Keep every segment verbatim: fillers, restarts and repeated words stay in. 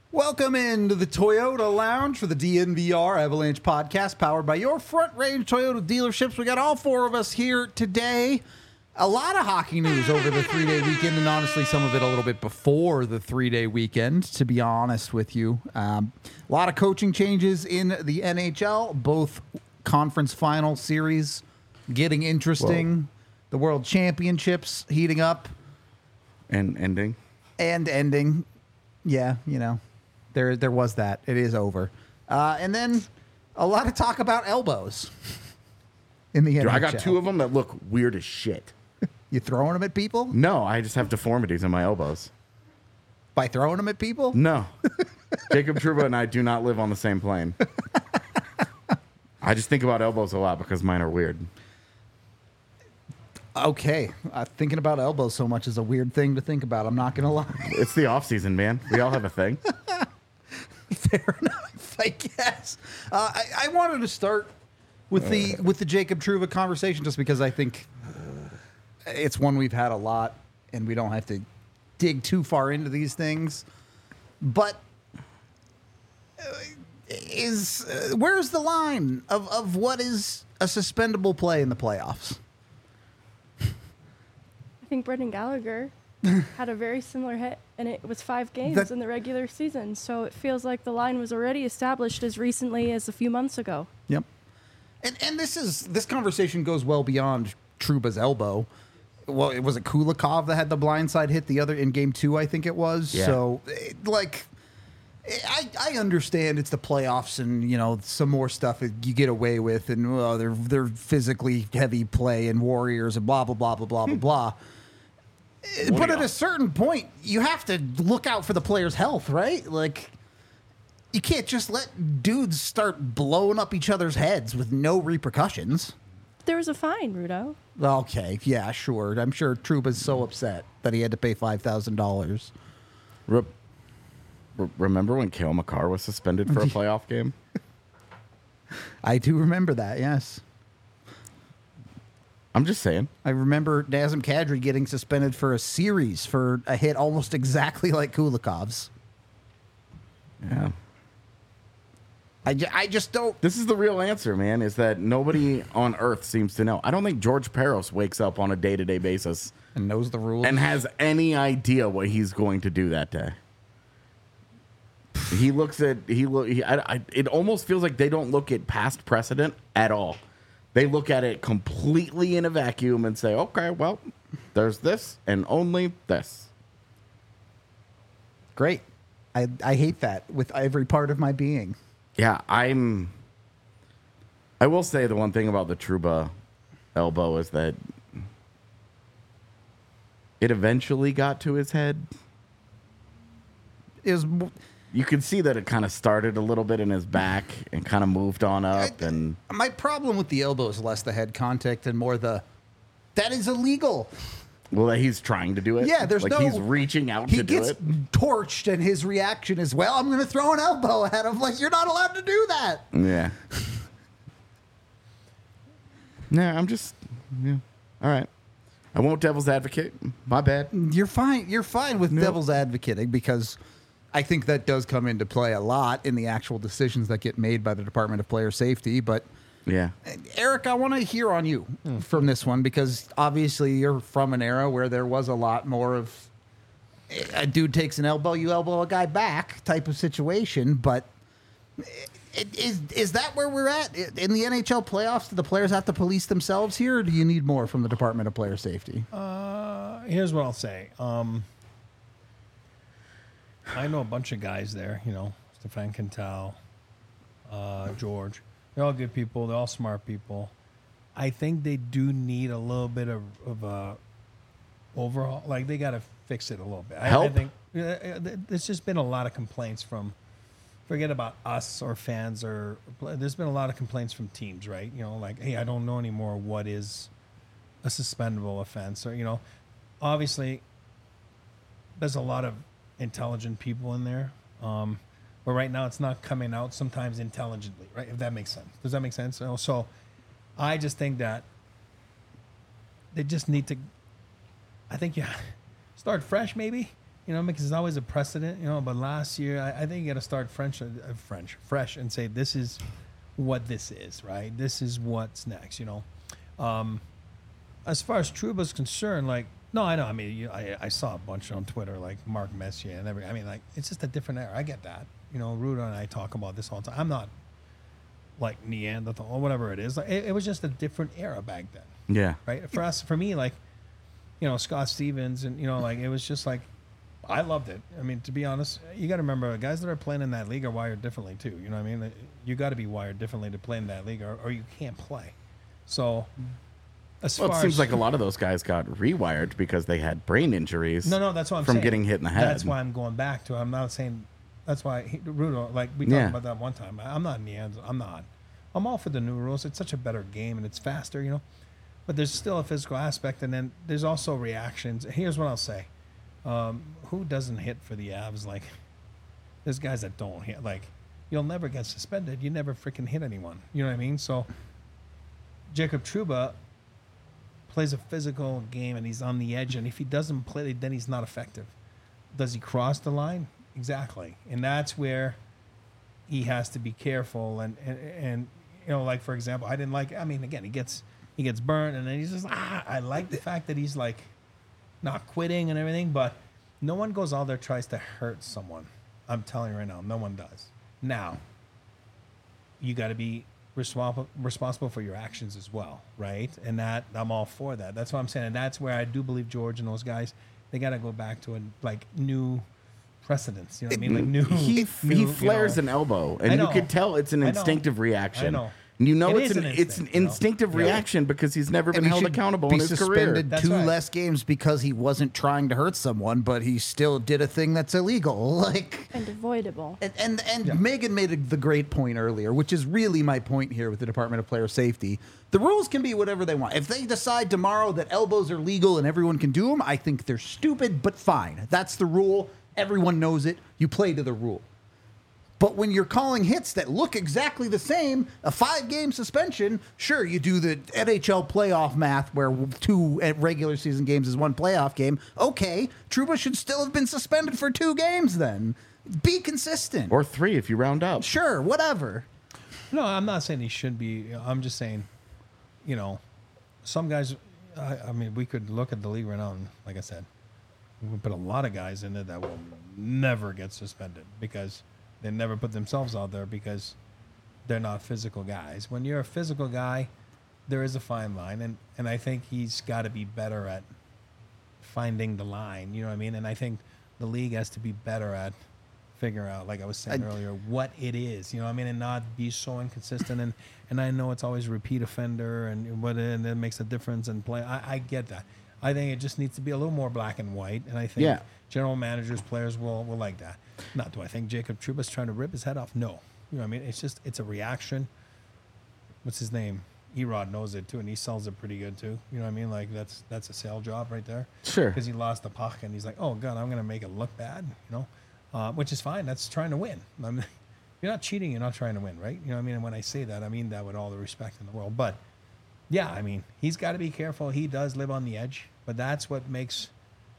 Welcome into the Toyota Lounge for the D N V R Avalanche podcast, powered by your Front Range Toyota dealerships. We got all four of us here today. A lot of hockey news over the three-day weekend, and honestly, some of it a little bit before the three-day weekend, to be honest with you. Um, a lot of coaching changes in the N H L, both conference final series getting interesting, Whoa. the World Championships heating up. And ending. And ending. Yeah, you know. There, there was that. It is over. Uh, and then a lot of talk about elbows in the N H L. I got two of them that look weird as shit. You throwing them at people? No, I just have deformities in my elbows. By throwing them at people? No. Jacob Trouba and I do not live on the same plane. I just think about elbows a lot because mine are weird. Okay. Uh, thinking about elbows so much is a weird thing to think about. I'm not going to lie. It's the off season, man. We all have a thing. Fair enough, I guess. Uh, I, I wanted to start with the with the Jacob Trouba conversation just because I think it's one we've had a lot, and we don't have to dig too far into these things. But is uh, where's the line of, of what is a suspendable play in the playoffs? I think Brendan Gallagher had a very similar hit, and it was five games that, in the regular season. So it feels like the line was already established as recently as a few months ago. Yep. And and this is this conversation goes well beyond Trouba's elbow. Well, it was it Kulikov that had the blindside hit the other in game two, I think it was. Yeah. So, it, like, I I understand it's the playoffs and, you know, some more stuff you get away with, and well, they're they're physically heavy play and Warriors and blah blah blah blah blah blah blah. But at a certain point, you have to look out for the player's health, right? Like, you can't just let dudes start blowing up each other's heads with no repercussions. There was a fine, Rudo. Okay, yeah, sure. I'm sure Trouba's so upset that he had to pay five thousand dollars. Re- re- remember when Cale Makar was suspended for a playoff game? I do remember that, yes. I'm just saying. I remember Nazem Kadri getting suspended for a series for a hit almost exactly like Kulikov's. Yeah. I, ju- I just don't... This is the real answer, man, is that nobody on Earth seems to know. I don't think George Peros wakes up on a day-to-day basis and knows the rules and has any idea what he's going to do that day. He looks at... he, look, he I, I, It almost feels like they don't look at past precedent at all. They look at it completely in a vacuum and say, okay, well, there's this and only this. Great. I, I hate that with every part of my being. Yeah, I'm... I will say the one thing about the Trouba elbow is that it eventually got to his head. It was... You could see that it kind of started a little bit in his back and kind of moved on up. And my problem with the elbow is less the head contact and more the, that is illegal. Well, that he's trying to do it. Yeah, there's like no... he's reaching out he to do it. He gets torched, and his reaction is, well, I'm going to throw an elbow at him. Like, you're not allowed to do that. Yeah. Yeah, I'm just... Yeah. All right. I won't devil's advocate. My bad. You're fine. You're fine with no. devil's advocating because... I think that does come into play a lot in the actual decisions that get made by the Department of Player Safety. But, yeah, Eric, I want to hear on you mm. from this one because obviously you're from an era where there was a lot more of a dude takes an elbow, you elbow a guy back type of situation. But is, is that where we're at? In the N H L playoffs, do the players have to police themselves here, or do you need more from the Department of Player Safety? Uh, here's what I'll say. Um, I know a bunch of guys there, you know, Stefan Quintal, uh, George. They're all good people. They're all smart people. I think they do need a little bit of, of a overhaul. Like, they got to fix it a little bit. Help? I, I think uh, there's just been a lot of complaints from, forget about us or fans, or there's been a lot of complaints from teams, right? You know, like, hey, I don't know anymore what is a suspendable offense. Or, you know, obviously there's a lot of intelligent people in there, um, but right now it's not coming out sometimes intelligently, right? If that makes sense. Does that make sense? You know, so I just think that they just need to, I think, yeah, start fresh maybe. You know, because it's always a precedent. You know, but last year, I, I think you got to start French, uh, French, fresh, and say this is what this is, right? This is what's next. You know, um, as far as Trouba's concerned, like, no, I know. I mean, you, I I saw a bunch on Twitter, like Mark Messier and every. I mean, like, it's just a different era. I get that. You know, Ruda and I talk about this all the time. I'm not like Neanderthal or whatever it is. Like, it, it was just a different era back then. Yeah. Right. For us, for me, like, you know, Scott Stevens and, you know, like, it was just like, I loved it. I mean, to be honest, you got to remember, guys that are playing in that league are wired differently too. You know what I mean? You got to be wired differently to play in that league or, or you can't play. So, as Well, far it seems as, like a lot of those guys got rewired because they had brain injuries. no, no, that's what I'm from saying. getting hit in the head. That's why I'm going back to. I'm not saying. That's why he, Rudo, like we talked Yeah. about that one time. I, I'm not Neanderthal. I'm not. I'm all for the new rules. It's such a better game and it's faster, you know. But there's still a physical aspect, and then there's also reactions. Here's what I'll say: um, who doesn't hit for the Avs? Like, there's guys that don't hit. Like, you'll never get suspended. You never freaking hit anyone. You know what I mean? So, Jacob Trouba plays a physical game, and he's on the edge. And if he doesn't play, then he's not effective. Does he cross the line? Exactly, and that's where he has to be careful. And and, and you know, like for example, I didn't like. I mean, again, he gets. He gets burned, and then he's just ah. I like the fact that he's like not quitting and everything, but no one goes out there tries to hurt someone. I'm telling you right now, no one does. Now, you got to be responsible responsible for your actions as well, right? And that I'm all for that. That's what I'm saying, and that's where I do believe George and those guys they got to go back to a like new precedents. You know what I mean? Like new. he new, he you flares know. an elbow, I and you know. could tell it's an I know. instinctive reaction. I know. You know It it's is an, an it's an instinct, you know? instinctive Yeah. reaction because he's never been And he held should accountable be in his career. suspended That's two right. less games because he wasn't trying to hurt someone, but he still did a thing that's illegal. Like, And avoidable. and and, and Yeah. Megan made a, the great point earlier, which is really my point here with the Department of Player Safety. The rules can be whatever they want. If they decide tomorrow that elbows are legal and everyone can do them, I think they're stupid, but fine. That's the rule. Everyone knows it. You play to the rule. But when you're calling hits that look exactly the same, a five-game suspension, sure, you do the N H L playoff math where two regular season games is one playoff game. Okay, Trouba should still have been suspended for two games then. Be consistent. Or three if you round up. Sure, whatever. No, I'm not saying he should be. I'm just saying, you know, some guys. I, I mean, we could look at the league right now, and like I said, we put a lot of guys in it that will never get suspended because they never put themselves out there because they're not physical guys. When you're a physical guy, there is a fine line, and and I think he's got to be better at finding the line. You know what I mean? And I think the league has to be better at figure out, like I was saying I- earlier, what it is. You know what I mean? And not be so inconsistent. and and I know it's always repeat offender and what and it makes a difference in play. I, I get that. I think it just needs to be a little more black and white. And I think Yeah. general managers, players will will like that. Not do I think Jacob Trouba's trying to rip his head off? No. You know what I mean? It's just it's a reaction. What's his name? Erod knows it too, and he sells it pretty good too. You know what I mean? Like that's that's a sale job right there. Sure. Because he lost the puck, and he's like, "Oh God, I'm going to make it look bad," you know, uh, which is fine. That's trying to win. I mean, you're not cheating. You're not trying to win, right? You know what I mean? And when I say that, I mean that with all the respect in the world. But yeah, I mean, he's got to be careful. He does live on the edge, but that's what makes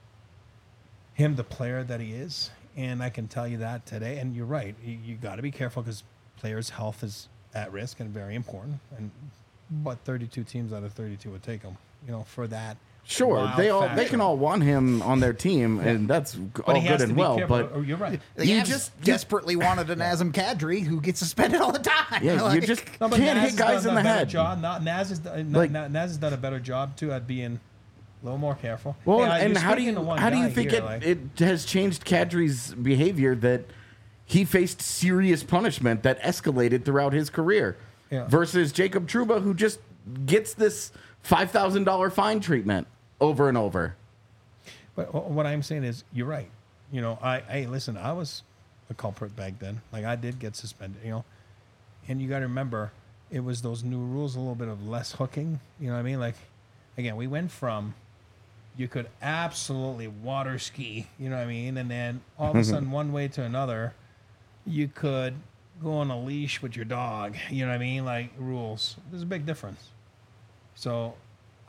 him the player that he is. And I can tell you that today. And you're right. You, you got to be careful because players' health is at risk and very important. And but thirty-two teams out of thirty-two would take him, you know, for that. Sure, wild they all they factor. can all want him on their team, and that's But all he has good to and be well. careful. But Oh, you're right. The You Avs just- you- desperately wanted an Nazem Kadri who gets suspended all the time. yeah, you Like, just No, but can't Naz hit has guys done in a the better head. Job. Not, Naz, has, done- Like- Naz has done a better job too at being a little more careful. Well, Hey, uh, and you're how do speaking you to one how do you guy think here, it, like- it has changed Kadri's behavior that he faced serious punishment that escalated throughout his career Yeah. versus Jacob Trouba, who just gets this five thousand dollar fine treatment over and over. But wh- what I'm saying is, you're right. You know, I, hey, listen, I was a culprit back then. Like, I did get suspended, you know. And you got to remember, it was those new rules, a little bit of less hooking. You know what I mean? Like, again, we went from you could absolutely water ski, you know what I mean? And then all of a sudden, one way to another, you could go on a leash with your dog, you know what I mean? Like, rules. There's a big difference. So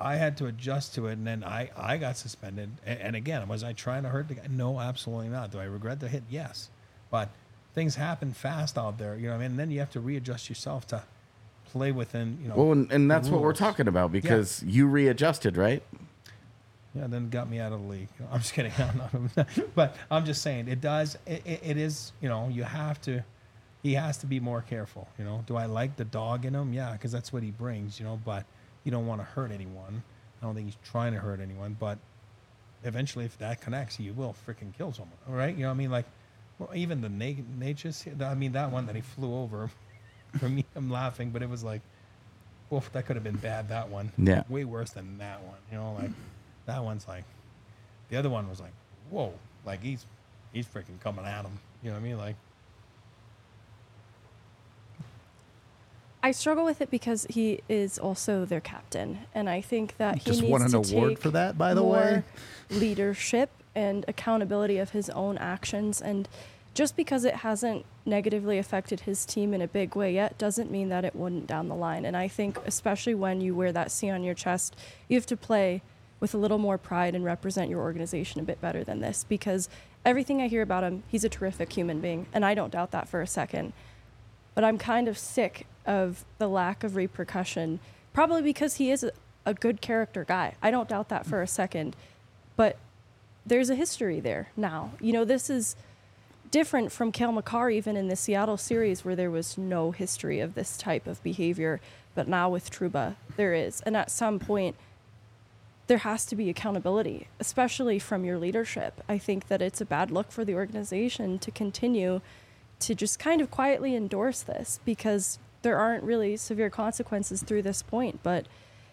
I had to adjust to it, and then I, I got suspended. And, and again, was I trying to hurt the guy? No, absolutely not. Do I regret the hit? Yes. But things happen fast out there, you know what I mean? And then you have to readjust yourself to play within, you know. Well, and, and that's what we're rules. talking about because you readjusted, right? Yeah, then got me out of the league. You know, I'm just kidding. I'm not, but I'm just saying, it does, it, it, it is, you know, you have to, he has to be more careful, you know. Do I like the dog in him? Yeah, because that's what he brings, you know, but you don't want to hurt anyone. I don't think he's trying to hurt anyone, but eventually if that connects, you will freaking kill someone, all right? You know what I mean? Like, well, even the na- Natchez, I mean, that one that he flew over, for me, I'm laughing, but it was like, oof, that could have been bad, that one. Yeah. Way worse than that one, you know, like, that one's like, the other one was like, whoa, like he's, he's freaking coming at him, you know what I mean? Like, I struggle with it because he is also their captain, and I think that he Just needs won an to award take for that, by the more way. leadership and accountability of his own actions. And just because it hasn't negatively affected his team in a big way yet doesn't mean that it wouldn't down the line. And I think especially when you wear that C on your chest, you have to play with a little more pride and represent your organization a bit better than this, because everything I hear about him, he's a terrific human being, and I don't doubt that for a second. But I'm kind of sick of the lack of repercussion, probably because he is a, a good character guy. I don't doubt that for a second. But there's a history there now. You know, this is different from Cale Makar even in the Seattle series where there was no history of this type of behavior. But now with Trouba, there is. And at some point, there has to be accountability, especially from your leadership. I think that it's a bad look for the organization to continue to just kind of quietly endorse this, because there aren't really severe consequences through this point. But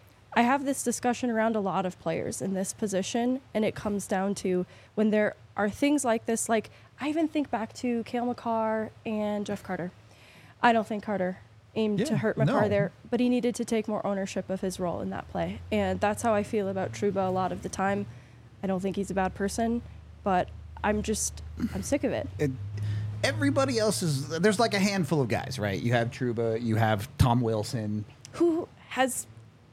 I have this discussion around a lot of players in this position, and it comes down to when there are things like this, like I even think back to Cale Makar and Jeff Carter. I don't think Carter aimed Yeah, to hurt Makar no. there, but he needed to take more ownership of his role in that play. And that's how I feel about Trouba a lot of the time. I don't think he's a bad person, but I'm just, I'm sick of it. It, everybody else is, there's like a handful of guys, right? You have Trouba, you have Tom Wilson. Who has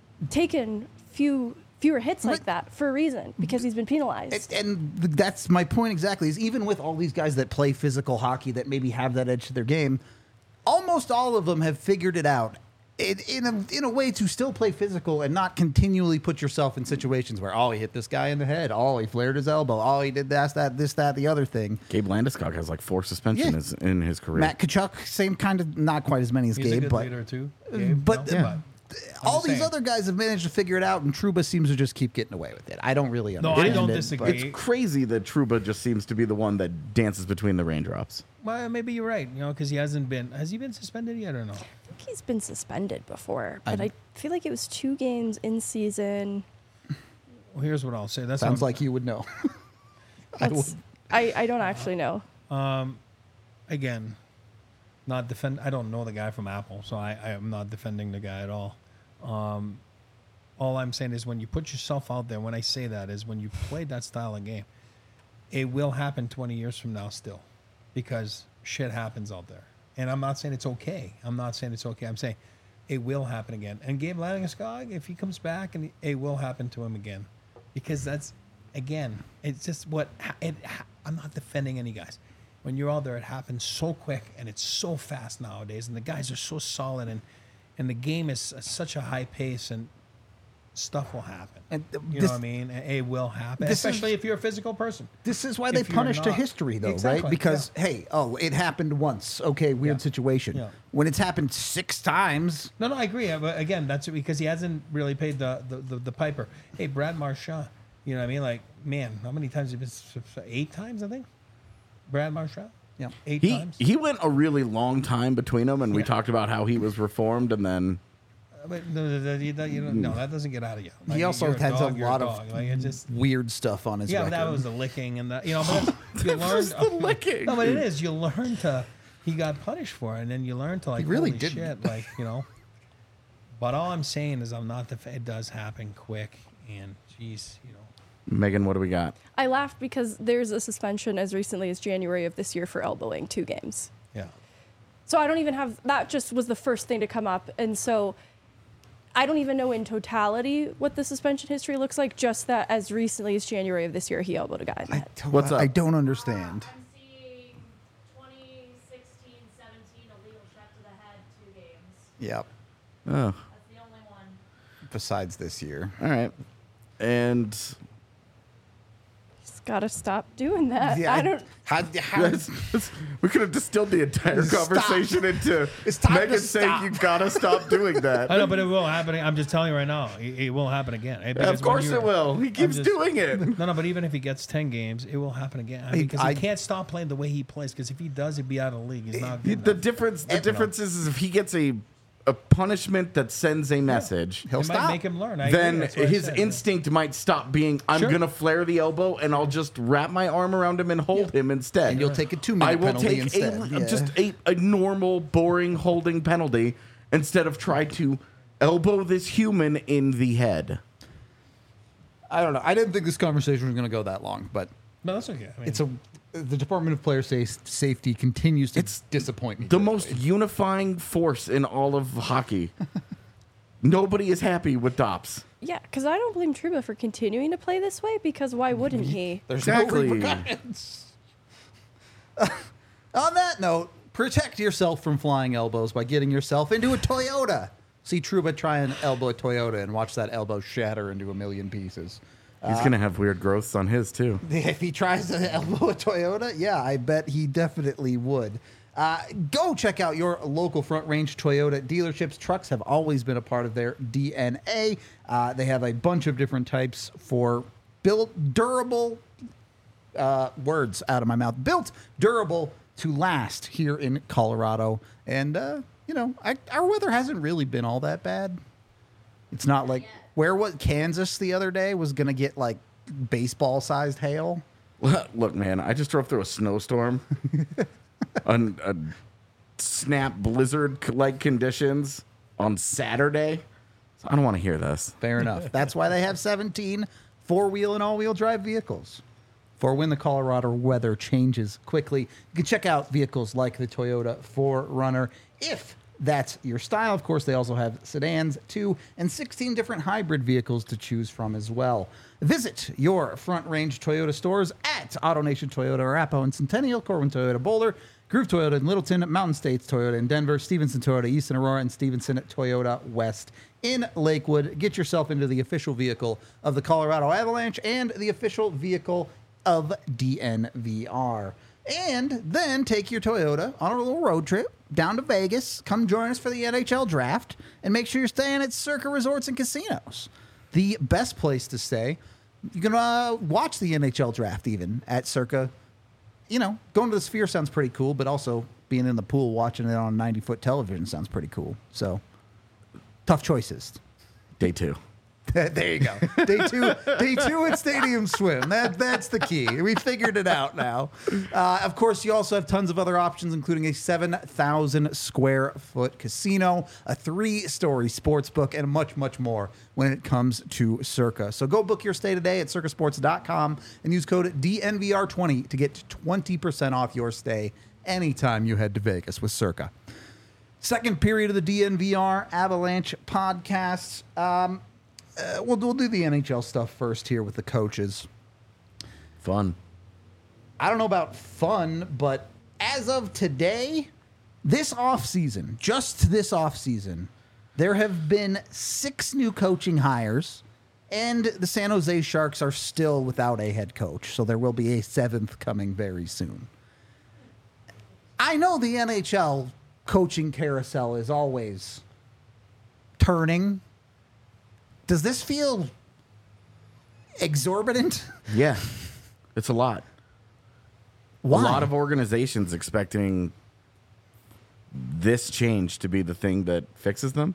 taken few fewer hits like Right. that for a reason, because he's been penalized. And, and that's my point exactly, is even with all these guys that play physical hockey that maybe have that edge to their game, almost all of them have figured it out in, in, a, in a way to still play physical and not continually put yourself in situations where, oh, he hit this guy in the head, oh, he flared his elbow, oh, he did this, that, this, that, the other thing. Gabe Landeskog has like four suspensions Yeah. in his career. Matt Kachuk, same kind of, not quite as many as he's a Gabe, good but leader too. Gabe, but, no? uh, all just these saying. other guys have managed to figure it out, and Trouba seems to just keep getting away with it. I don't really No, understand I don't it, disagree. but- It's crazy that Trouba just seems to be the one that dances between the raindrops. Well, maybe you're right, you know, because he hasn't been, has he been suspended yet or no? I think he's been suspended before, but I- I, feel like it was two games in season. Well, here's what I'll say. That's Sounds what I'm- like you would know. I would. That's, I, I don't actually know. again, not defend. I don't know the guy from Apple, so I, I am not defending the guy at all. Um, all I'm saying is when you put yourself out there, when I say that is when you play that style of game, it will happen twenty years from now still, because shit happens out there. And I'm not saying it's okay. I'm not saying it's okay. I'm saying it will happen again. And Gabe Landeskog, if he comes back, and it will happen to him again, because that's, again, it's just what ha- it. Ha- I'm not defending any guys. When you're out there, it happens so quick and it's so fast nowadays, and the guys are so solid, and and the game is at such a high pace, and stuff will happen. And, uh, you this- know what I mean? It it will happen, this is- especially if you're a physical person. This is why they If you're punish to not- history, though, Exactly, right? Because, hey, oh, it happened once. Okay, weird Yeah. situation. Yeah. When it's happened six times, No, no, I agree. Uh, But again, that's because he hasn't really paid the, the, the, the piper. Hey, Brad Marchand, you know what I mean? Like, man, how many times have you been? s- Eight times, I think. Brad Marchand. Yeah. Eight He times. he went a really long time between them, and we Yeah. talked about how he was reformed, and then Uh, But no, no, no, you don't- you don't- no, that doesn't get out of you. Like, he also you're has dog, a you're lot dog. of Like, it just, weird stuff on his yeah, record. but that was the licking and the you know. But that's, you learn was the licking. No, but it is. You learn to. He got punished for it, and then you learn to like. really holy didn't. shit, like you know. But all I'm saying is, I'm not. Def- it does happen quick, and geez, you know. Megan, what do we got? I laughed because there's a suspension as recently as January of this year for elbowing two games. Yeah. So I don't even have, that just was the first thing to come up. And so I don't even know in totality what the suspension history looks like, just that as recently as January of this year, he elbowed a guy in the I head. don't, What's up? I don't understand. I'm seeing twenty sixteen seventeen illegal shot to the head, two games. Yep. Oh, That's the only one. Besides this year. all right. And He's got to stop doing that. Yeah, I don't. How, how, That's- that's- we could have distilled the entire Stop. conversation into It's time to Megan saying stop. you gotta stop doing that. I know, but it will happen. I'm just telling you right now, it, it will happen again. Yeah, Because of course when you- it will. He keeps just- doing it. No, no, but even if he gets ten games, it will happen again. I Hey, mean, because I- he can't stop playing the way he plays. Because if he does, he'd be out of the league. He's not The, good the enough. difference, the Eh, no. difference is, is if he gets a a punishment that sends a message, He'll It stop. might make him learn. I agree. then That's what I his said. instinct might stop being, I'm Sure. gonna flare the elbow and I'll just wrap my arm around him and hold him instead. And you'll take a two-minute I will penalty take instead. a, Yeah. just a, a normal, boring holding penalty instead of try to elbow this human in the head. I don't know. I didn't think this conversation was going to go that long, but No, that's okay. I mean, it's a the Department of Player Sa- Safety continues to It's disappoint me. The most unifying force in all of hockey. Nobody is happy with D O P S. Yeah, because I don't blame Truba for continuing to play this way, because why wouldn't he? There's Exactly. no repercussions. On that note, protect yourself from flying elbows by getting yourself into a Toyota. See Truba try and elbow a Toyota and watch that elbow shatter into a million pieces. He's gonna have weird growths on his too. If he tries to elbow a Toyota, yeah, I bet he definitely would. Uh, go check out your local Front Range Toyota dealerships. Trucks have always been a part of their D N A. Uh, they have a bunch of different types for built durable uh, words out of my mouth. Built durable to last here in Colorado. And, uh, you know, I, our weather hasn't really been all that bad. It's not like where was Kansas the other day was going to get like baseball sized hail. Look, man, I just drove through a snowstorm, on a snap blizzard like conditions on Saturday. So I don't want to hear this. Fair enough. That's why they have seventeen four-wheel and all-wheel drive vehicles. For when the Colorado weather changes quickly, you can check out vehicles like the Toyota four runner if that's your style. Of course, they also have sedans, too, and sixteen different hybrid vehicles to choose from as well. Visit your Front Range Toyota stores at AutoNation Toyota Arapahoe and Centennial, Corwin Toyota Boulder, Groove Toyota in Littleton, Mountain States Toyota in Denver, Stevenson Toyota East in Aurora, and Stevenson Toyota West in Lakewood. Get yourself into the official vehicle of the Colorado Avalanche and the official vehicle of D N V R. And then take your Toyota on a little road trip down to Vegas. Come join us for the N H L draft and make sure you're staying at Circa Resorts and Casinos. The best place to stay. You can uh, watch the N H L draft even at Circa. You know, going to the Sphere sounds pretty cool, but also being in the pool watching it on ninety-foot television sounds pretty cool. So, tough choices. Day two. There you go. Day two, day two at Stadium Swim. That that's the key. We figured it out now. Uh, of course, you also have tons of other options, including a seven thousand square foot casino, a three-story sports book, and much, much more when it comes to Circa. So go book your stay today at circa sports dot com and use code D N V R twenty to get twenty percent off your stay anytime you head to Vegas with Circa. Second period of the D N V R Avalanche podcast. Um, Uh, we'll, we'll do the N H L stuff first here with the coaches. Fun. I don't know about fun, but as of today, this offseason, just this offseason, there have been six new coaching hires, and the San Jose Sharks are still without a head coach, so there will be a seventh coming very soon. I know the N H L coaching carousel is always turning. Does this feel exorbitant? Yeah. It's a lot. Why? A lot of organizations expecting this change to be the thing that fixes them.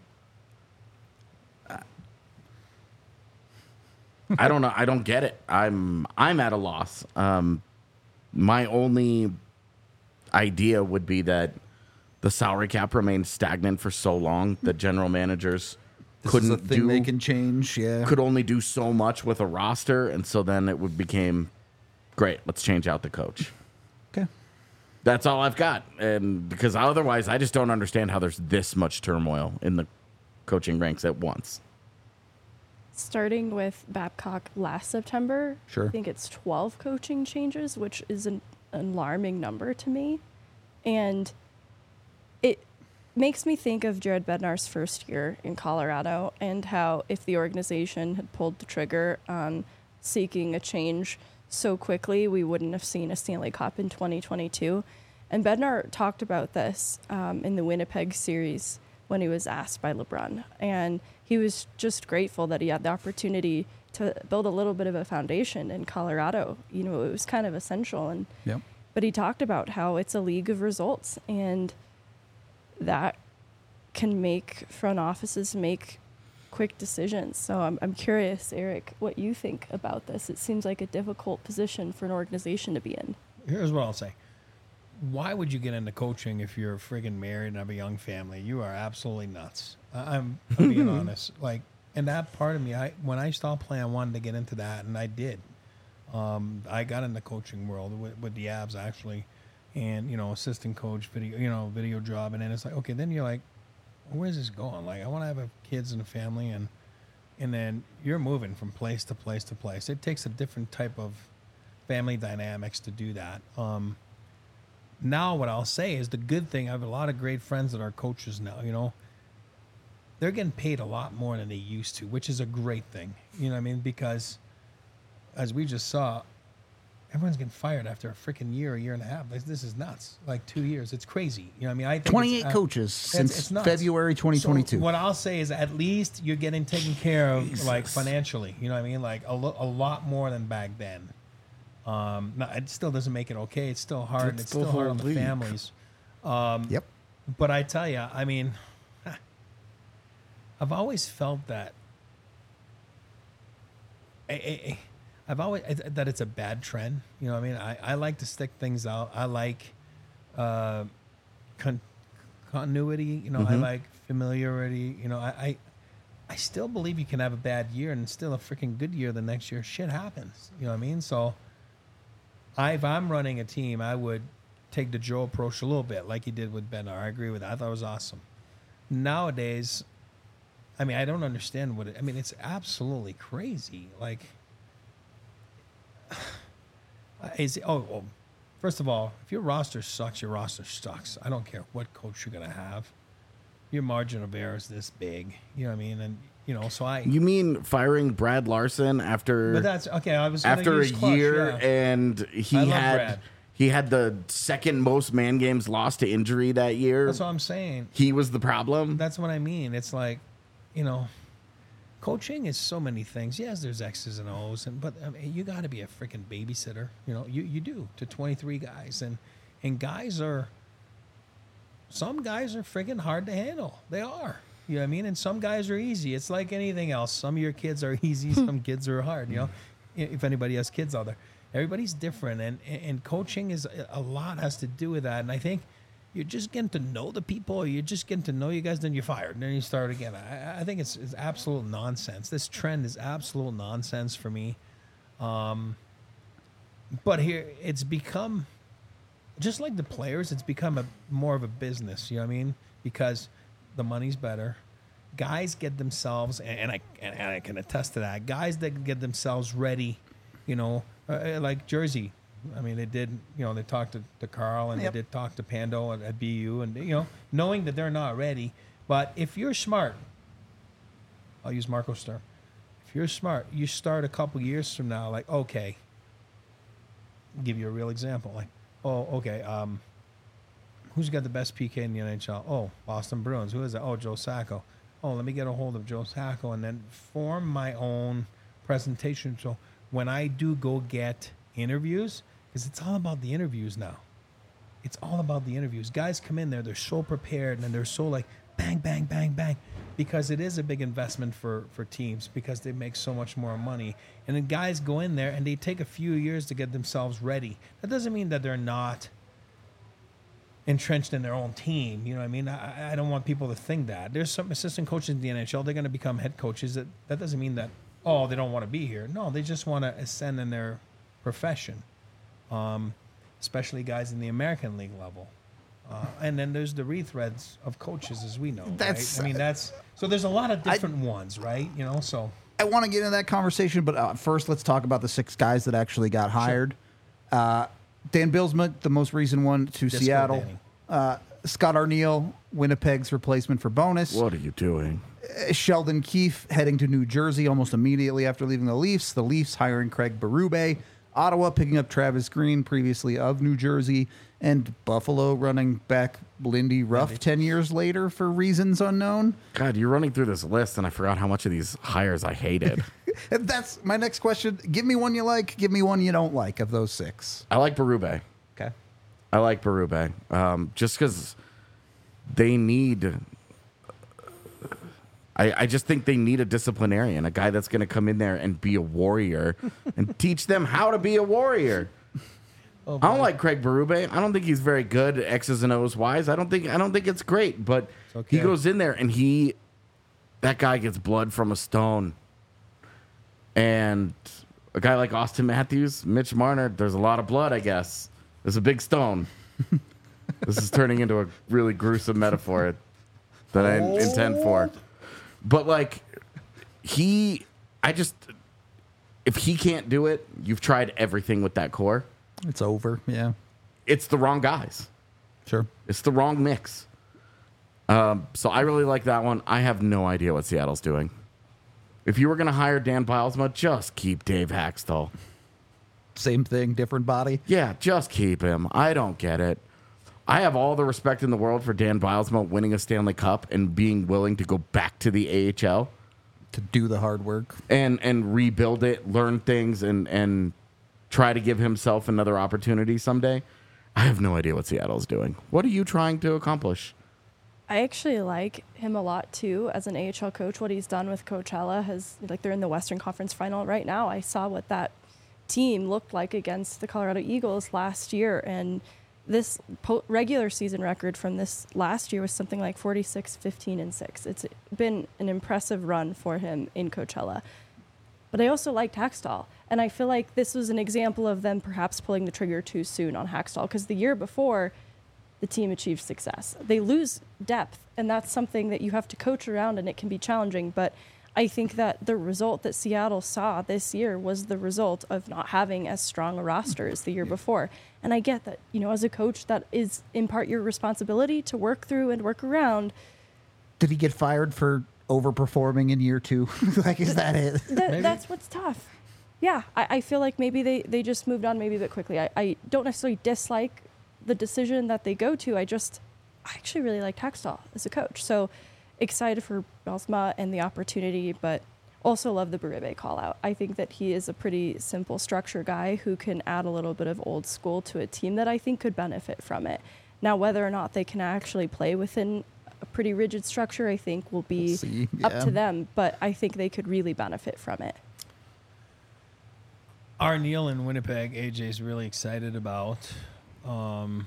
I don't know. I don't get it. I'm I'm at a loss. Um, my only idea would be that the salary cap remained stagnant for so long that general managers This couldn't is a thing do they can change. Yeah. could only do so much with a roster, and so then it would became great. Let's change out the coach. Okay. That's all I've got, and because otherwise, I just don't understand how there's this much turmoil in the coaching ranks at once. Starting with Babcock last September, Sure. I think it's twelve coaching changes, which is an alarming number to me. And it makes me think of Jared Bednar's first year in Colorado and how if the organization had pulled the trigger on seeking a change so quickly, we wouldn't have seen a Stanley Cup in twenty twenty-two. And Bednar talked about this um, in the Winnipeg series when he was asked by LeBrun. And he was just grateful that he had the opportunity to build a little bit of a foundation in Colorado. You know, it was kind of essential. And Yep. but he talked about how it's a league of results, and that can make front offices make quick decisions. So I'm I'm curious, Eric, what you think about this. It seems like a difficult position for an organization to be in. Here's what I'll say. Why would you get into coaching if you're friggin' married and have a young family? You are absolutely nuts. I- I'm, I'm being honest. Like, and that part of me, I when I stopped playing, I wanted to get into that, and I did. Um, I got in the coaching world with, with the Abs actually, and you know, assistant coach, video, you know, video job, and then it's like, okay, then you're like, where's this going? Like, I want to have a kids and a family, and and then you're moving from place to place to place. It takes a different type of family dynamics to do that. Um, now, what I'll say is the good thing. I have a lot of great friends that are coaches now. You know, they're getting paid a lot more than they used to, which is a great thing. You know what I mean? Because as we just saw, everyone's getting fired after a freaking year, a year and a half. This, this is nuts. Like two years. It's crazy. You know what I mean? I think twenty-eight it's, uh, coaches it's- since it's nuts. February twenty twenty-two. So what I'll say is at least you're getting taken care of, like financially. You know what I mean? Like a, lo- a lot more than back then. Um, no, it still doesn't make it okay. It's still hard. It's It's, still still hard on the league. families. Yep. But I tell you, I mean, I've always felt that. I, I, I've always I- that it's a bad trend. You know what I mean? I, I like to stick things out. I like uh, con- continuity. You know, I like familiarity. You know, I, I I still believe you can have a bad year and still a freaking good year the next year. Shit happens. You know what I mean? So, I, if I'm running a team, I would take the Joe approach a little bit, like he did with Bednar. I agree with that. I thought it was awesome. Nowadays, I mean, I don't understand what it. I mean, it's absolutely crazy. Like, is it, oh, well, first of all, if your roster sucks, your roster sucks. I don't care what coach you're gonna have. Your margin of error is this big. You know what I mean? And you know, so I. You mean firing Brad Larson after But that's okay. I was gonna after a use Clutch, year yeah. and he I love had Brad. he had the second most man games lost to injury that year. That's what I'm saying. He was the problem. That's what I mean. It's like, you know, coaching is so many things. Yes, there's X's and O's, and but I mean, you got to be a freaking babysitter. You know, you you do to twenty-three guys, and and guys are. Some guys are freaking hard to handle. They are. You know what I mean? And some guys are easy. It's like anything else. Some of your kids are easy. Some kids are hard. You know, if anybody has kids out there, everybody's different, and and coaching is a lot has to do with that. And I think you're just getting to know the people, or you're just getting to know you guys, then you're fired, and then you start again. I, I think it's, it's absolute nonsense. This trend is absolute nonsense for me. Um, but here, it's become, just like the players, it's become a more of a business, you know what I mean? Because the money's better. Guys get themselves, and, and I and, and I can attest to that, guys that get themselves ready, you know, uh, like Jersey. I mean, they did, you know, they talked to, to Carl, and Yep. they did talk to Pando at, at B U, and, you know, knowing that they're not ready. But if you're smart, I'll use Marco's term. If you're smart, you start a couple years from now, like, okay, I'll give you a real example. Like, oh, okay, um, who's got the best P K in the N H L? Oh, Boston Bruins. Who is that? Oh, Joe Sacco. Oh, let me get a hold of Joe Sacco and then form my own presentation. So when I do go get interviews, because it's all about the interviews now. It's all about the interviews. Guys come in there, they're so prepared, and they're so like, bang, bang, bang, bang, because it is a big investment for, for teams because they make so much more money. And then guys go in there, and they take a few years to get themselves ready. That doesn't mean that they're not entrenched in their own team. You know what I mean? I, I don't want people to think that. There's some assistant coaches in the N H L, they're going to become head coaches. That, that doesn't mean that, oh, they don't want to be here. No, they just want to ascend in their profession, um, especially guys in the American League level. Uh, and then there's the rethreads of coaches, as we know. That's- right? I mean, that's so. There's a lot of different ones, right? You know, so I want to get into that conversation, but uh, first let's talk about the six guys that actually got hired. Uh, Dan Bilsma, the most recent one to Disco Seattle. Danny. Uh, Scott Arniel, Winnipeg's replacement for Bonus. What are you doing? Uh, Sheldon Keefe heading to New Jersey almost immediately after leaving the Leafs. The Leafs hiring Craig Berube. Ottawa picking up Travis Green, previously of New Jersey. And Buffalo running back Lindy Ruff ten years later for reasons unknown. God, you're running through this list, and I forgot how much of these hires I hated. And that's my next question. Give me one you like. Give me one you don't like of those six. I like Berube. Okay. I like Berube. Um, just because they need... I, I just think they need a disciplinarian, a guy that's going to come in there and be a warrior and teach them how to be a warrior. Oh, I don't like Craig Berube. I don't think he's very good at X's and O's wise. I don't think I don't think it's great, but okay. he goes in there and he that guy gets blood from a stone. And a guy like Austin Matthews, Mitch Marner, there's a lot of blood, I guess. There's a big stone. This is turning into a really gruesome metaphor that I intend for. But like he I just if he can't do it, you've tried everything with that core. It's over. Yeah. It's the wrong guys. Sure. It's the wrong mix. Um, so I really like that one. I have no idea what Seattle's doing. If you were going to hire Dan Bilesma, just keep Dave Haxtell. Same thing, different body. Yeah, just keep him. I don't get it. I have all the respect in the world for Dan Bilesma winning a Stanley Cup and being willing to go back to the A H L To do the hard work. and and rebuild it, learn things, and and try to give himself another opportunity someday. I have no idea what Seattle's doing. What are you trying to accomplish? I actually like him a lot too as an A H L coach. What he's done with Coachella has, like, they're in the Western Conference Final right now. I saw what that team looked like against the Colorado Eagles last year, and this po- regular season record from this last year was something like forty-six, fifteen, and six. It's been an impressive run for him in Coachella. But I also liked Haxtell, and I feel like this was an example of them perhaps pulling the trigger too soon on Haxtell, because the year before, the team achieved success. They lose depth, and that's something that you have to coach around, and it can be challenging. But I think that the result that Seattle saw this year was the result of not having as strong a roster as the year before. And I get that, you know, as a coach, that is in part your responsibility to work through and work around. Did he get fired for overperforming in year two? Like, is that it? Th- that's what's tough. Yeah, I, I feel like maybe they, they just moved on maybe a bit quickly. I, I don't necessarily dislike the decision that they go to. I just, I actually really liked Haxtell as a coach. So excited for Belsma and the opportunity, but also love the Berube call out. I think that he is a pretty simple structure guy who can add a little bit of old school to a team that I think could benefit from it. Now, whether or not they can actually play within a pretty rigid structure, I think will be We'll see, up yeah. to them, but I think they could really benefit from it. our Neil in Winnipeg, A J's really excited about. Um,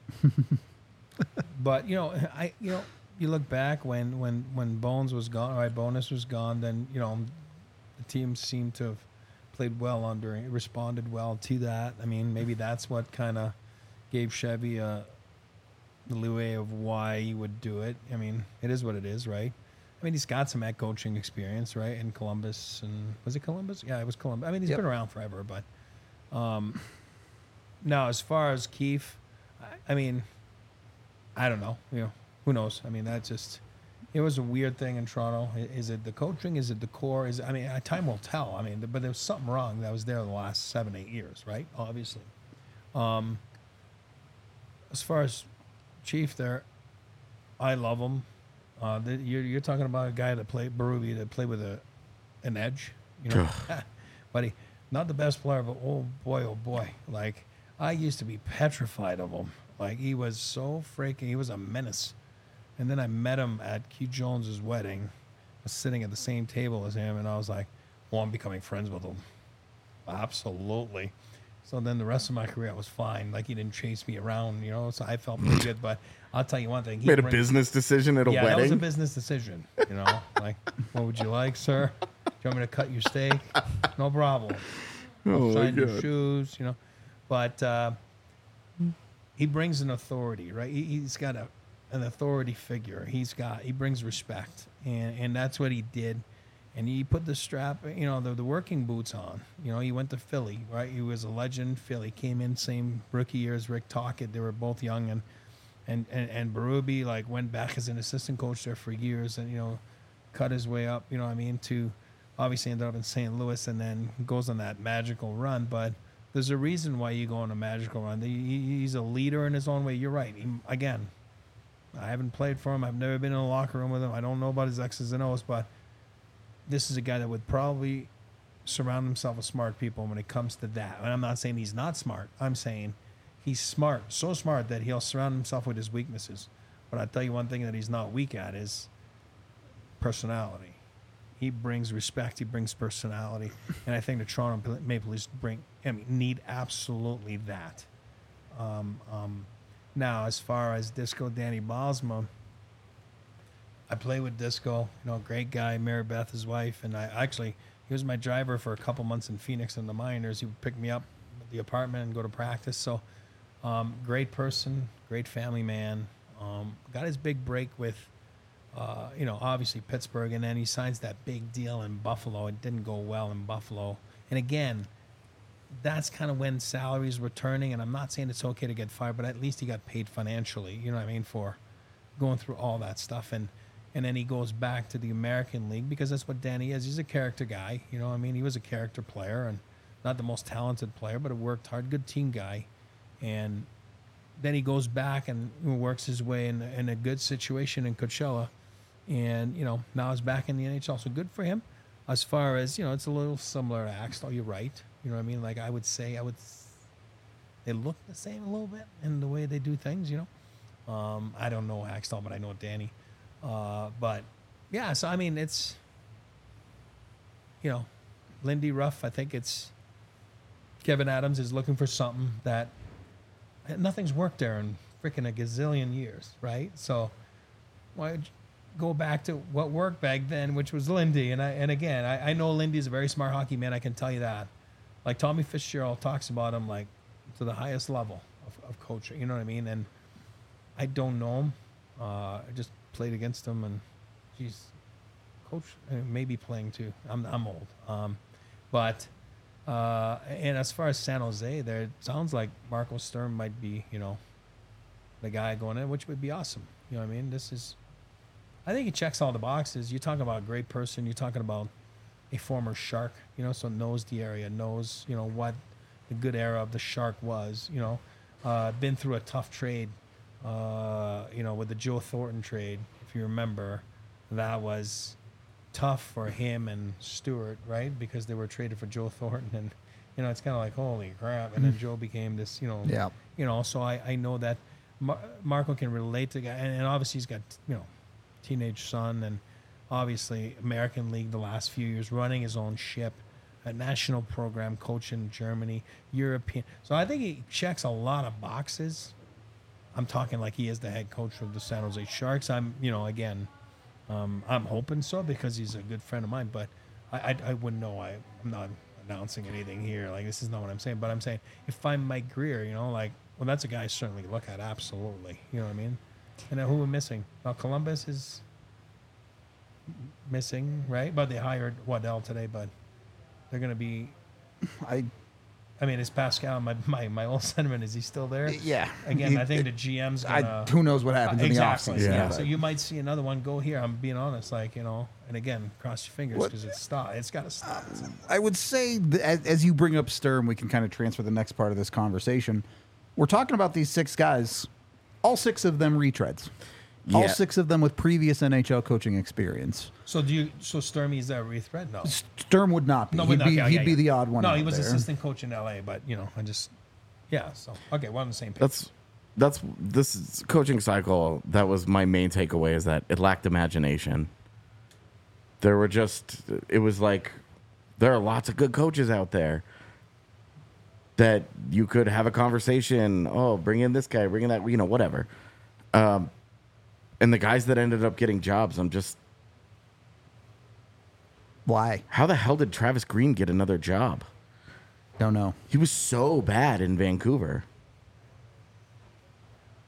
but you know, I you know, you look back when when when Bones was gone, right? Bonus was gone. Then you know, the team seemed to have played well under, responded well to that. I mean, maybe that's what kind of gave Chevy a the leeway of why he would do it. I mean, it is what it is, right? I mean, he's got some head coaching experience, right? In Columbus, and was it Columbus? Yeah, it was Columbus. I mean, he's Yep. been around forever, but um, now as far as Keefe, I, I mean, I don't know. You know, who knows? I mean, that just it was a weird thing in Toronto. I- Is it the coaching? Is it the core? Is it, I mean, uh, time will tell. I mean, but there was something wrong that was there the last seven, eight years, right? Obviously. Um, as far as Chief, there, I love him. Uh, the, you're, you're talking about a guy that played Berube that played with a an edge, you know, buddy. Not the best player, but oh boy, oh boy. Like I used to be petrified of him. Like he was so freaking. He was a menace. And then I met him at Keith Jones's wedding. I was sitting at the same table as him, and I was like, "Well, I'm becoming friends with him." Absolutely. So then the rest of my career I was fine. Like he didn't chase me around, you know. So I felt pretty good. But I'll tell you one thing: he Made a bring- business decision at a yeah, that was a wedding. business decision. You know, like, what would you like, sir? Do you want me to cut your steak? No problem. Oh, my Sign your God. shoes, you know. But uh, he brings an authority, right? He, he's got a an authority figure. He's got he brings respect, and and that's what he did. And he put the strap, you know, the, the working boots on. You know, he went to Philly, right? He was a legend. Philly came in same rookie year as Rick Tocchet. They were both young, and and and, and Berube like went back as an assistant coach there for years, and you know, cut his way up. You know what I mean? To obviously ended up in Saint Louis, and then goes on that magical run. But there's a reason why you go on a magical run. He, he's a leader in his own way. You're right. He, again, I haven't played for him. I've never been in a locker room with him. I don't know about his X's and O's, but this is a guy that would probably surround himself with smart people when it comes to that. And I'm not saying he's not smart. I'm saying he's smart, so smart that he'll surround himself with his weaknesses. But I tell you one thing that he's not weak at is personality. He brings respect. He brings personality. And I think the Toronto Maple Leafs bring, I mean, need absolutely that. Um, um, now, as far as Disco Danny Bosma, I play with Disco, you know, great guy, Mary Beth, his wife, and I actually, he was my driver for a couple months in Phoenix in the minors. He would pick me up at the apartment and go to practice. So, um, great person, great family man. Um, got his big break with, uh, you know, obviously Pittsburgh, and then he signs that big deal in Buffalo. It didn't go well in Buffalo. And again, that's kind of when salaries were turning, and I'm not saying it's okay to get fired, but at least he got paid financially, you know what I mean, for going through all that stuff. And And then he goes back to the American League because that's what Danny is. He's a character guy. You know what I mean? He was a character player and not the most talented player, but he worked hard, good team guy. And then he goes back and works his way in, in a good situation in Coachella. And, you know, now he's back in the N H L. So good for him. As far as, you know, it's a little similar to Axtell. You're right. You know what I mean? Like I would say, I would, they look the same a little bit in the way they do things, you know. Um, I don't know Axtell, but I know Danny. Uh, but yeah, so I mean, it's, you know, Lindy Ruff. I think it's Kevin Adams is looking for something that nothing's worked there in freaking a gazillion years, right? So why go back to what worked back then, which was Lindy? And I, and again, I, I know Lindy's a very smart hockey man. I can tell you that. Like Tommy Fitzgerald talks about him like to the highest level of, of coaching. You know what I mean? And I don't know him. Uh, I just played against him, and he's coach uh, maybe playing too. I'm I'm old, um, but uh, and as far as San Jose, there it sounds like Marco Sturm might be, you know, the guy going in, which would be awesome. You know what I mean? This is, I think he checks all the boxes. You're talking about a great person. You're talking about a former Shark, you know, so knows the area, knows you know what the good era of the Shark was. You know, uh, been through a tough trade. Uh, you know, with the Joe Thornton trade, if you remember, that was tough for him and Stewart, right? Because they were traded for Joe Thornton, and you know, it's kind of like holy crap. And then Joe became this, you know, Yeah. you know. So I, I know that Mar- Marco can relate to the guy, and, and obviously he's got you know, teenage son, and obviously American League the last few years, running his own ship, a national program, coach in Germany, European. So I think he checks a lot of boxes. I'm talking like he is the head coach of the San Jose Sharks. I'm, you know, again, um, I'm hoping so because he's a good friend of mine. But I, I, I wouldn't know. I, I'm not announcing anything here. Like this is not what I'm saying. But I'm saying if I'm Mike Greer, you know, like, well, that's a guy I certainly look at. Absolutely, you know what I mean. And then who we're missing? Well, Columbus is missing, right? But they hired Waddell today. But they're going to be. I I mean, is Pascal, my, my, my old sentiment, is he still there? yeah. Again, He- I think the G M's I, going to... who knows what happens in the Exactly. offseason? Yeah. Yeah. So you might see another one go here. I'm being honest, like, you know, and again, cross your fingers What- because it's stop. It's got to stop. I would say, that as, as you bring up Sturm, we can kind of transfer the next part of this conversation. We're talking about these six guys, all six of them retreads. All Yeah. six of them with previous N H L coaching experience. So do you? So Sturmy is that rethread? No. Sturm would not be. No, he'd but be, okay, he'd yeah, be yeah. the odd one No, out he was there. assistant coach in L A, but you know, I just yeah. So okay, we're on the same page. That's that's this is coaching cycle. That was my main takeaway is that it lacked imagination. There were just it was like there are lots of good coaches out there that you could have a conversation. Oh, bring in this guy, bring in that, you know, whatever. Um, and the guys that ended up getting jobs, I'm just Why? how the hell did Travis Green get another job? Don't know. He was so bad in Vancouver.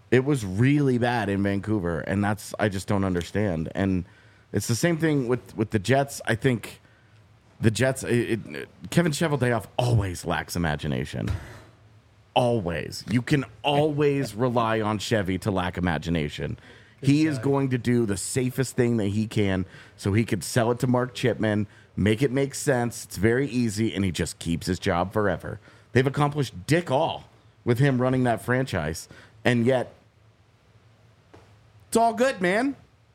It was really bad in Vancouver, and that's I just don't understand. And it's the same thing with, with the Jets. I think the Jets, it, it, Kevin Cheveldayoff always lacks imagination. Always. You can always rely on Chevy to lack imagination. He is going to do the safest thing that he can so he could sell it to Mark Chipman, make it make sense. It's very easy, and he just keeps his job forever. They've accomplished dick all with him running that franchise, and yet it's all good, man.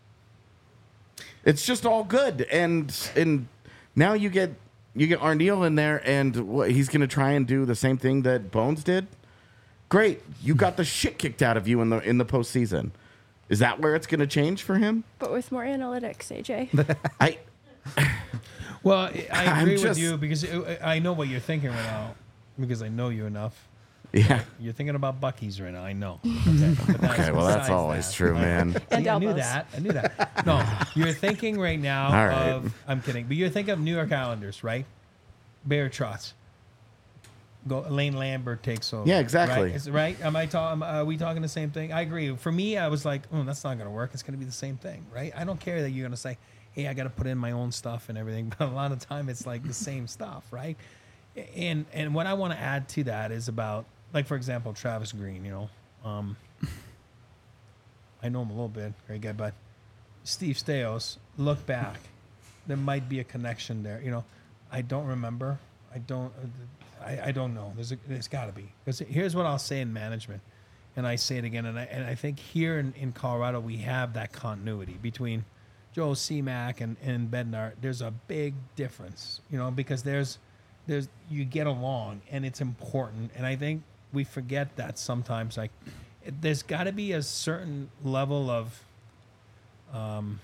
It's just all good, and and now you get you get Arneal in there, and what, he's going to try and do the same thing that Bones did. Great, you got the shit kicked out of you in the in the postseason. Is that where it's going to change for him? But with more analytics, A J. I Well, I I I'm agree with just- you because I I know what you're thinking right now because I know you enough. yeah. You're thinking about Buc-ee's right now. I know. Okay, but that's Okay, well that's besides always that. true, man. And See, I knew elbows. that. I knew that. No, you're thinking right now All right. of. I'm kidding, but you're thinking of New York Islanders, right? Bear Trotz. Go. Lane Lambert takes over. Yeah, exactly. Right? Is, right? Am I talking? Are we talking the same thing? I agree. For me, I was like, oh, that's not going to work. It's going to be the same thing, right? I don't care that you're going to say, hey, I got to put in my own stuff and everything, but a lot of time it's like the same stuff, right? And and what I want to add to that is about, like, for example, Travis Green. You know, um, I know him a little bit, great guy, but Steve Stais, look back, there might be a connection there. You know, I don't remember. I don't. I, I don't know. There's a, there's got to be. Because here's what I'll say in management, and I say it again, and I and I think here in, in Colorado we have that continuity between Joe C-Mac and and Bednar. There's a big difference, you know, because there's there's you get along and it's important, and I think we forget that sometimes. Like, it, there's got to be a certain level of, um,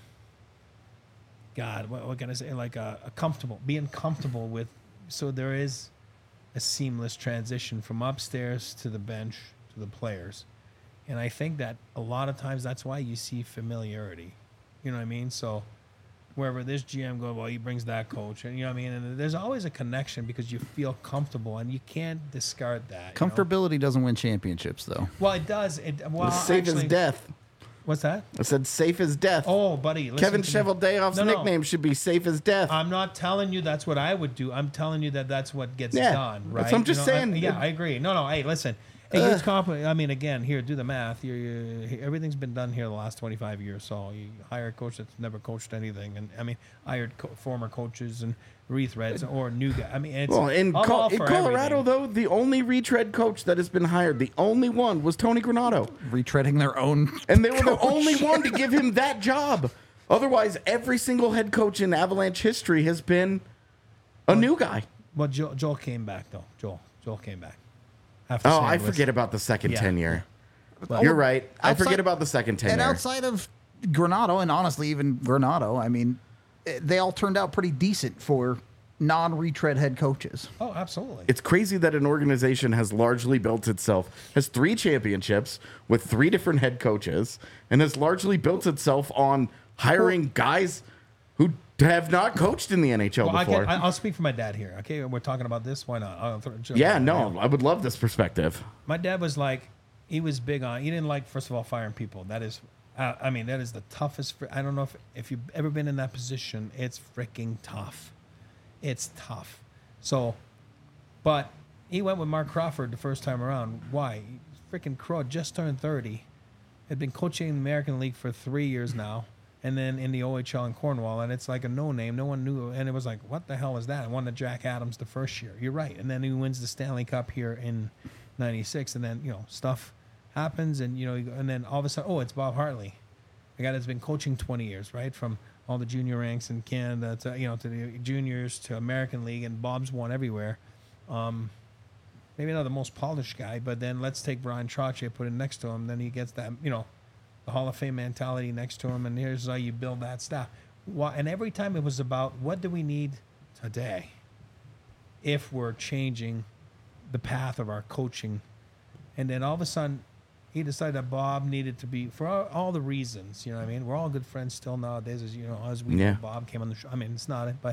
God, what, what can I say? Like a, a comfortable, being comfortable with. So there is a seamless transition from upstairs to the bench to the players, and I think that a lot of times that's why you see familiarity. You know what I mean? So wherever this G M goes, well, he brings that coach, and you know what I mean. And there's always a connection because you feel comfortable, and you can't discard that. you know? Comfortability doesn't win championships, though. Well, it does. It well, Safe actually, as death. What's that? I said safe as death. Oh, buddy, listen Kevin to me. Cheveldayoff's No, no. nickname should be safe as death. I'm not telling you that's what I would do. I'm telling you that that's what gets Yeah, done, that's right? what I'm just You know, saying. I, yeah, I agree. No, no. Hey, listen. It gets complicated. I mean, again, here, do the math. You're, you're, everything's been done here the last twenty-five years. So you hire a coach that's never coached anything, and I mean, hired co- former coaches and retreads or new guy. I mean, it's Well, in, I'm Co- all in for Colorado, everything. though, the only retread coach that has been hired, the only one, was Tony Granato. Retreading their own. And they were the only one to give him that job. Otherwise, every single head coach in Avalanche history has been a new guy. Well, Joel, Joel came back though. Joel, Joel came back. After Oh, Saint I Louis. forget about the second Yeah. tenure. Well, You're right. I outside- forget about the second tenure. And outside of Granato, and honestly, even Granato, I mean, eh, they all turned out pretty decent for non-retread head coaches. Oh, absolutely. It's crazy that an organization has largely built itself, has three championships with three different head coaches, and has largely built itself on hiring guys who have not coached in the N H L Well, I before. can, I, I'll speak for my dad here. Okay, we're talking about this. Why not? I'll throw, jump yeah, in. no, I would love this perspective. My dad was like, he was big on. He didn't like, first of all, firing people. That is, uh, I mean, that is the toughest. fr- I don't know if if you've ever been in that position. It's freaking tough. It's tough. So, but he went with Mark Crawford the first time around. Why? Freaking Crow just turned thirty. Had been coaching in the American League for three years now, and then in the O H L in Cornwall, and it's like a no name. No one knew, and it was like, what the hell is that? I won the Jack Adams the first year. You're right, and then he wins the Stanley Cup here in ninety-six, and then you know stuff happens, and you know, and then all of a sudden, oh, it's Bob Hartley, a guy that's been coaching twenty years, right, from all the junior ranks in Canada to you know to the juniors to American League, and Bob's won everywhere. Um, maybe not the most polished guy, but then let's take Brian Trottier, put it next to him, then he gets that you know the Hall of Fame mentality next to him, and here's how you build that staff. Why, and every time it was about what do we need today if we're changing the path of our coaching. And then all of a sudden, he decided that Bob needed to be, for all, all the reasons, you know what I mean? We're all good friends still nowadays, as you know, as we Yeah. know Bob came on the show. I mean, it's not it, but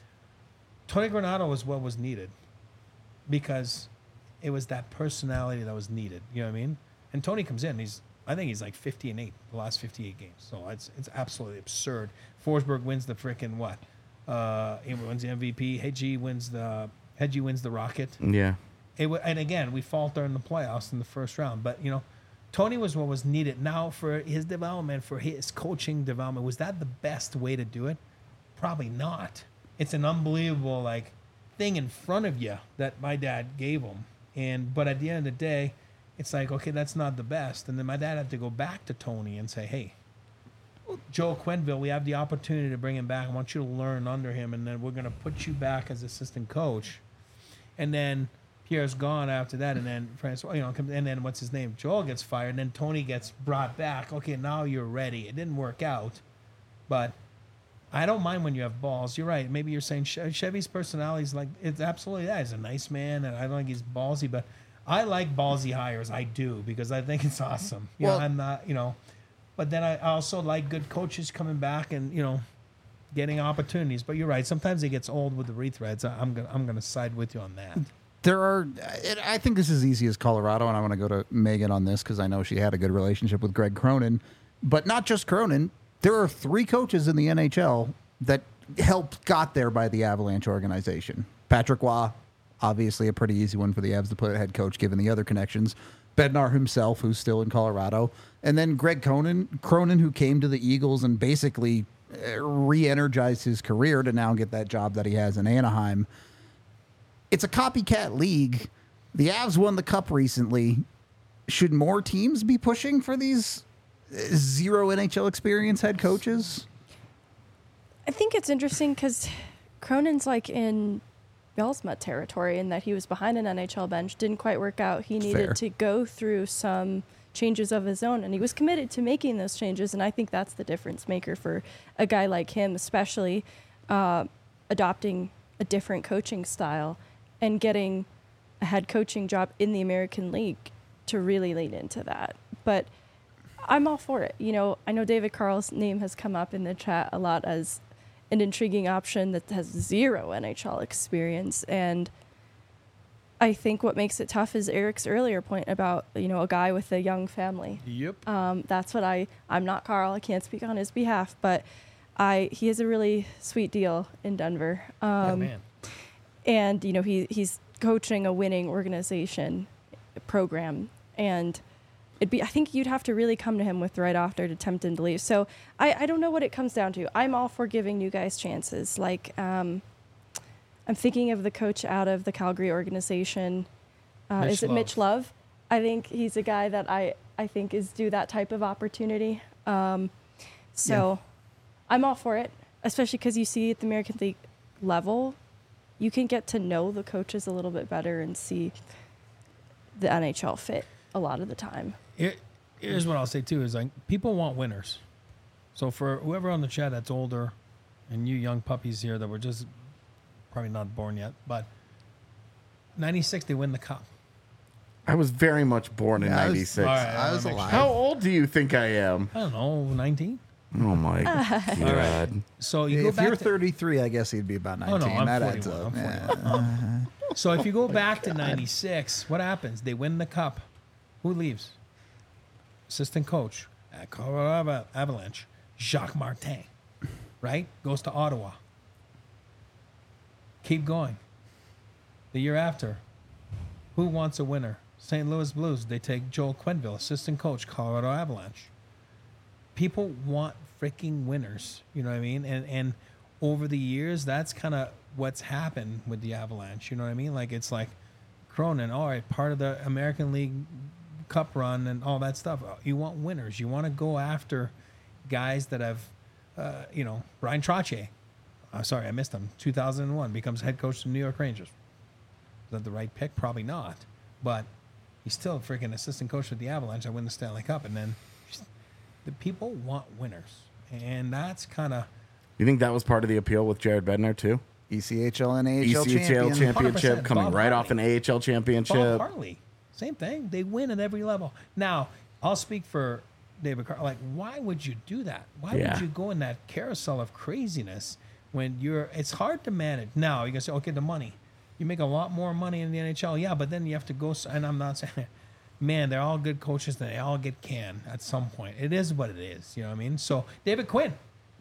Tony Granato was what was needed because it was that personality that was needed, you know what I mean? And Tony comes in, he's I think he's like fifty and eight the last fifty-eight games. So it's it's absolutely absurd. Forsberg wins the freaking what? Uh, he wins the M V P. Hedgie wins the Hedgie wins the Rocket. Yeah. It w- and again, we falter in the playoffs in the first round. But you know, Tony was what was needed. Now for his development, for his coaching development, was that the best way to do it? Probably not. It's an unbelievable like thing in front of you that my dad gave him. And but at the end of the day, it's like, okay, that's not the best. And then my dad had to go back to Tony and say, hey, Joel Quenneville, we have the opportunity to bring him back. I want you to learn under him, and then we're going to put you back as assistant coach. And then Pierre's gone after that, and then Francois, you know, and then what's his name? Joel gets fired, and then Tony gets brought back. Okay, now you're ready. It didn't work out, but I don't mind when you have balls. You're right. Maybe you're saying Chevy's personality is like, it's absolutely that. He's a nice man, and I don't think he's ballsy, but I like ballsy hires. I do, because I think it's awesome. You Well- know, I'm not, you know, but then I also like good coaches coming back and, you know, getting opportunities. But you're right. Sometimes it gets old with the retreads. I- I'm gonna I'm gonna side with you on that. There are, it, I think this is easy as Colorado, and I want to go to Megan on this because I know she had a good relationship with Greg Cronin. But not just Cronin. There are three coaches in the N H L that helped got there by the Avalanche organization. Patrick Waugh, obviously a pretty easy one for the Avs to put at head coach, given the other connections. Bednar himself, who's still in Colorado. And then Greg Cronin, Cronin, who came to the Eagles and basically uh, re-energized his career to now get that job that he has in Anaheim. It's a copycat league. The Avs won the Cup recently. Should more teams be pushing for these uh, zero N H L experience head coaches? I think it's interesting because Cronin's like in Belsma territory in that he was behind an N H L bench, didn't quite work out. He needed Fair. to go through some changes of his own, and he was committed to making those changes. And I think that's the difference maker for a guy like him, especially uh, adopting a different coaching style and getting a head coaching job in the American League to really lean into that. But I'm all for it. You know, I know David Carl's name has come up in the chat a lot as an intriguing option that has zero N H L experience. And I think what makes it tough is Eric's earlier point about, you know, a guy with a young family. Yep. Um, that's what I, I'm not Carl. I can't speak on his behalf, but I, he has a really sweet deal in Denver. Um, yeah, man. and, you know, he, he's coaching a winning organization program. And it'd be, I think you'd have to really come to him with the right offer to tempt him to leave. So I, I don't know what it comes down to. I'm all for giving new guys chances. Like, um, I'm thinking of the coach out of the Calgary organization. Uh, Mitch is it Love. Mitch Love? I think he's a guy that I, I think is due that type of opportunity. Um, so I'm all for it, especially because you see at the American League level, you can get to know the coaches a little bit better and see the N H L fit a lot of the time. Here, here's what I'll say too: is like people want winners. So for whoever on the chat that's older, and you young puppies here that were just probably not born yet, but ninety-six they win the cup. I was very much born in Yeah, I was- ninety-six. All right, I was make alive. How old do you think I am? I don't know, nineteen. Oh my god. So you go If back you're to, thirty-three, I guess he'd be about Oh, nineteen. no, I'm that adds forty-one. up. I'm Yeah. forty-one. Um, so if you go back to ninety-six, what happens? They win the cup. Who leaves? Assistant coach at Colorado Ava- Avalanche, Jacques Martin, right? Goes to Ottawa. Keep going. The year after, who wants a winner? Saint Louis Blues. They take Joel Quenneville, assistant coach, Colorado Avalanche. People want freaking winners. You know what I mean? And and over the years, that's kind of what's happened with the Avalanche. You know what I mean? Like it's like Cronin, all right, part of the American League Cup run and all that stuff. You want winners. You want to go after guys that have, uh, you know, Ryan Trottier. Uh, sorry, I missed him. two thousand one becomes head coach of the New York Rangers. Is that the right pick? Probably not. But he's still a freaking assistant coach with the Avalanche. I win the Stanley Cup, and then the people want winners, and that's kind of You think that was part of the appeal with Jared Bednar too? E C H L and A H L E C H L champion. championship one hundred percent. coming Bob right off Hartley. an A H L Bob championship. Hartley. Same thing. They win at every level. Now, I'll speak for David Carl. Like, why would you do that? Why Yeah. would you go in that carousel of craziness when you're? It's hard to manage. Now you can say, okay, the money. You make a lot more money in the N H L, yeah, but then you have to go. s- And I'm not saying man, they're all good coaches and they all get canned at some point. It is what it is. You know what I mean? So David Quinn,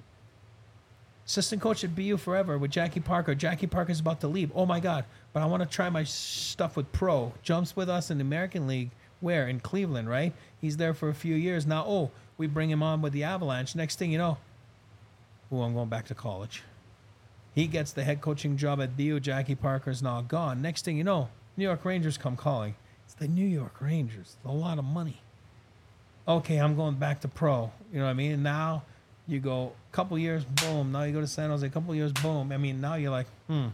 assistant coach at B U forever with Jackie Parker. Jackie Parker's about to leave. Oh my God. But I want to try my stuff with pro. Jumps with us in the American League. Where? In Cleveland, right? He's there for a few years. Now, oh, we bring him on with the Avalanche. Next thing you know, oh, I'm going back to college. He gets the head coaching job at B U. Jackie Parker's now gone. Next thing you know, New York Rangers come calling. It's the New York Rangers. A lot of money. Okay, I'm going back to pro. You know what I mean? And now you go a couple years, boom. Now you go to San Jose, a couple years, boom. I mean, now you're like, hmm.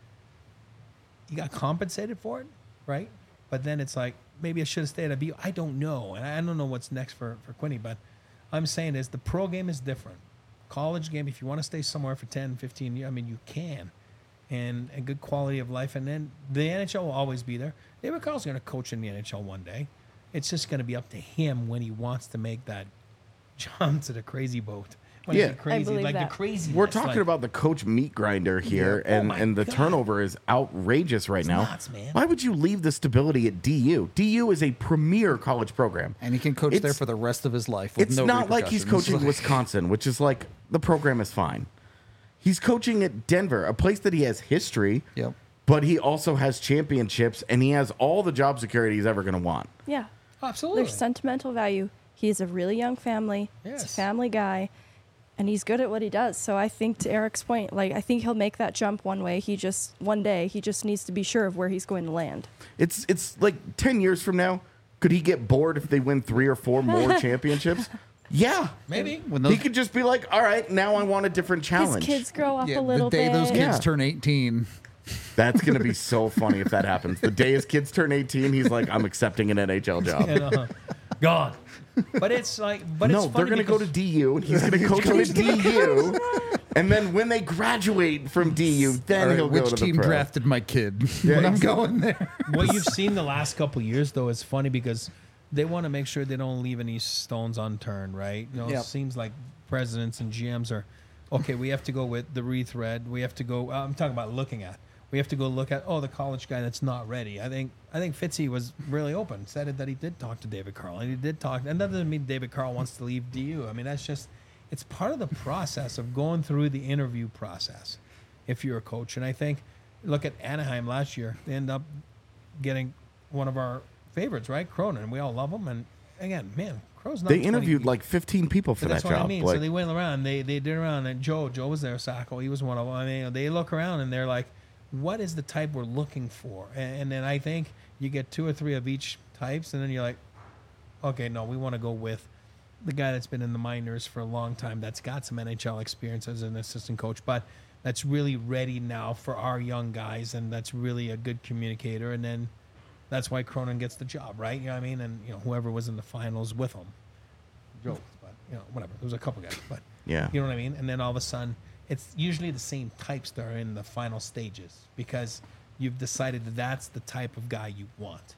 You got compensated for it, right? But then it's like, maybe I should have stayed at B U. I don't know. And I don't know what's next for, for Quinny. But I'm saying is the pro game is different. College game, if you want to stay somewhere for ten, fifteen years, I mean, you can. And a good quality of life. And then the N H L will always be there. David Carl's going to coach in the N H L one day. It's just going to be up to him when he wants to make that jump to the crazy boat. When Yeah. it's crazy, I believe like that. the crazy. We're talking about the coach meat grinder here, Yeah. Oh and, my and the God. turnover is outrageous right It's now. nuts, man. Why would you leave the stability at D U? D U is a premier college program. And he can coach It's- there for the rest of his life. With It's no not like he's repercussions. coaching Wisconsin, which is like the program is fine. He's coaching at Denver, a place that he has history, Yep. but he also has championships, and he has all the job security he's ever going to want. Yeah. Absolutely. There's sentimental value. He has a really young family. He's a Yes. family guy, and he's good at what he does. So I think, to Eric's point, like I think he'll make that jump one way. He just one day he just needs to be sure of where he's going to land. It's it's like ten years from now, could he get bored if they win three or four more championships? Yeah. Maybe. When He those, could just be like, all right, now I want a different His challenge. kids grow up yeah, a little the day bit. those kids Yeah. turn eighteen. That's going to be so funny if that happens. The day his kids turn eighteen, he's like, I'm accepting an N H L job. And, uh, gone. But it's like, but no, it's they're funny going to go to because- D U, and he's going to coach them at D U. And then when they graduate from D U, then All right, he'll which go to team the pro. drafted my kid when I'm going there? what you've seen the last couple of years, though, is funny because they want to make sure they don't leave any stones unturned, right? You know, Yep. it seems like presidents and G Ms are, okay, we have to go with the rethread. We have to go, I'm talking about looking at. We have to go look at, oh, the college guy that's not ready. I think I think Fitzy was really open, said it that he did talk to David Carl, and he did talk. And that doesn't mean David Carl wants to leave D U. I mean, that's just, it's part of the process of going through the interview process if you're a coach. And I think, look at Anaheim last year. They end up getting one of our favorites, right? Cronin. We all love him. And again, man, Crow's not They twenty interviewed people. like fifteen people for But that that's what job. I mean. Like, So they went around. They they did around, and Joe Joe was there. Sacco, he was one of them. I mean, they look around and they're like, "What is the type we're looking for?" And, and then I think you get two or three of each types, and then you're like, "Okay, no, we want to go with the guy that's been in the minors for a long time, that's got some N H L experience as an assistant coach, but that's really ready now for our young guys, and that's really a good communicator." And then that's why Cronin gets the job, right? You know what I mean? And you know, whoever was in the finals with him. Jokes, but you know, whatever. There was a couple guys, but Yeah. you know what I mean. And then all of a sudden, it's usually the same types that are in the final stages because you've decided that that's the type of guy you want.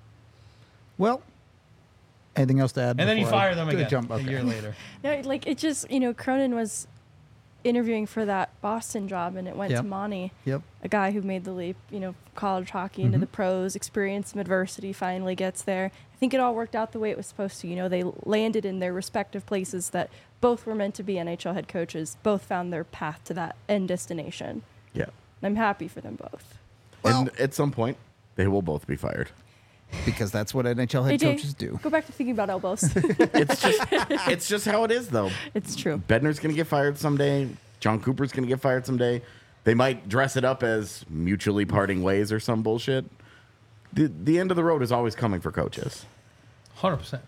Well, anything else to add? And then you before I fire them do a again Jump? a Okay. year later. No, like it just, you know, Cronin was interviewing for that Boston job, and it went Yep. to Monty, Yep. a guy who made the leap, you know, college hockey into Mhm. the pros, experienced some adversity, finally gets there. I think it all worked out the way it was supposed to. You know, they landed in their respective places that both were meant to be N H L head coaches, both found their path to that end destination. yeah. And I'm happy for them both. Well- and at some point, they will both be fired. Because that's what N H L head A J, coaches do. go back to thinking about elbows. It's just, it's just how it is, though. It's true. Bednar's going to get fired someday. John Cooper's going to get fired someday. They might dress it up as mutually parting ways or some bullshit. The, the end of the road is always coming for coaches. one hundred percent.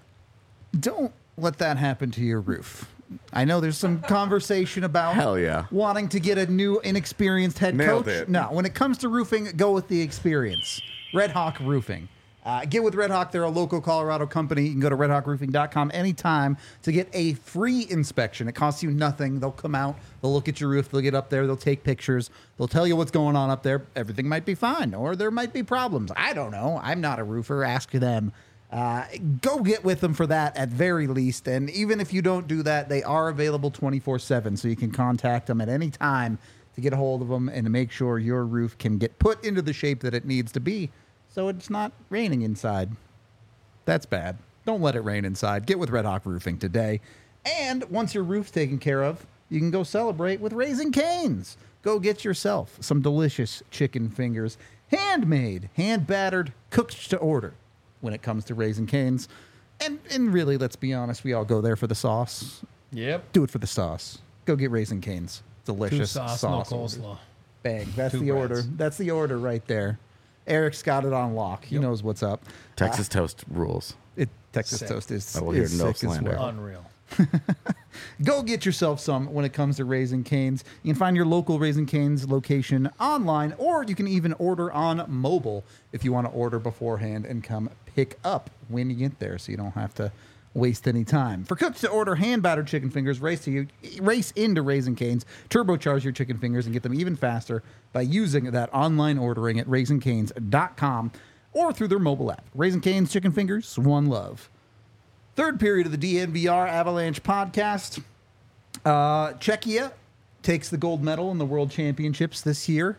Don't let that happen to your roof. I know there's some conversation about Hell yeah. wanting to get a new inexperienced head Nailed coach. it. No, when it comes to roofing, go with the experience. Red Hawk Roofing. Uh, get with Red Hawk. They're a local Colorado company. You can go to red hawk roofing dot com anytime to get a free inspection. It costs you nothing. They'll come out. They'll look at your roof. They'll get up there. They'll take pictures. They'll tell you what's going on up there. Everything might be fine, or there might be problems. I don't know. I'm not a roofer. Ask them. Uh, go get with them for that at very least. And even if you don't do that, they are available twenty-four seven, so you can contact them at any time to get a hold of them and to make sure your roof can get put into the shape that it needs to be so it's not raining inside. That's bad. Don't let it rain inside. Get with Red Hawk Roofing today. And once your roof's taken care of, you can go celebrate with Raising Cane's. Go get yourself some delicious chicken fingers, handmade, hand battered, cooked to order when it comes to Raising Cane's. And, and really, let's be honest, we all go there for the sauce. Yep. Do it for the sauce. Go get Raising Cane's. Delicious Two sauce, sauce. no orders. coleslaw. Bang. That's Two the breads. order. That's the order right there. Eric's got it on lock. He Yep. knows what's up. Texas toast rules. It, Texas Sick. toast is, I will hear is no sick as slander. well. Unreal. Go get yourself some when it comes to Raising Cane's. You can find your local Raising Cane's location online, or you can even order on mobile if you want to order beforehand and come pick up when you get there, so you don't have to waste any time. For cooks to order hand battered chicken fingers, race to you, race into Raising Cane's, turbocharge your chicken fingers, and get them even faster by using that online ordering at raising canes dot com or through their mobile app. Raising Cane's chicken fingers, one love. Third period of the D N V R Avalanche podcast. Uh, Czechia takes the gold medal in the World Championships this year.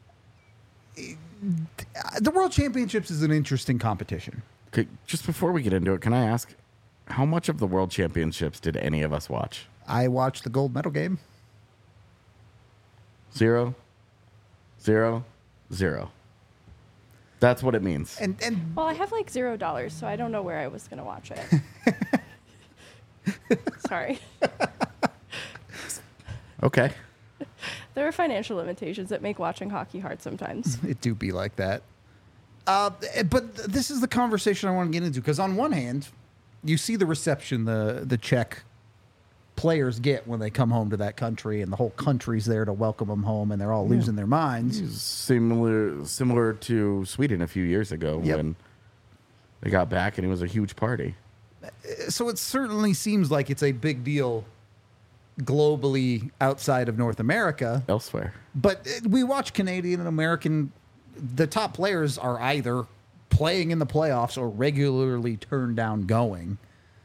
The World Championships is an interesting competition. Okay, just before we get into it, can I ask, how much of the World Championships did any of us watch? I watched the gold medal game. Zero, zero, zero. That's what it means. And and Well, I have like zero dollars, so I don't know where I was going to watch it. Sorry. Okay. There are financial limitations that make watching hockey hard sometimes. it do be like that. Uh, but th- this is the conversation I want to get into, because on one hand, you see the reception the the Czech players get when they come home to that country, and the whole country's there to welcome them home, and they're all losing their minds. Similar, similar to Sweden a few years ago Yep. when they got back and it was a huge party. So it certainly seems like it's a big deal globally outside of North America. Elsewhere. But uh, we watch Canadian and American, the top players are either playing in the playoffs or regularly turned down going.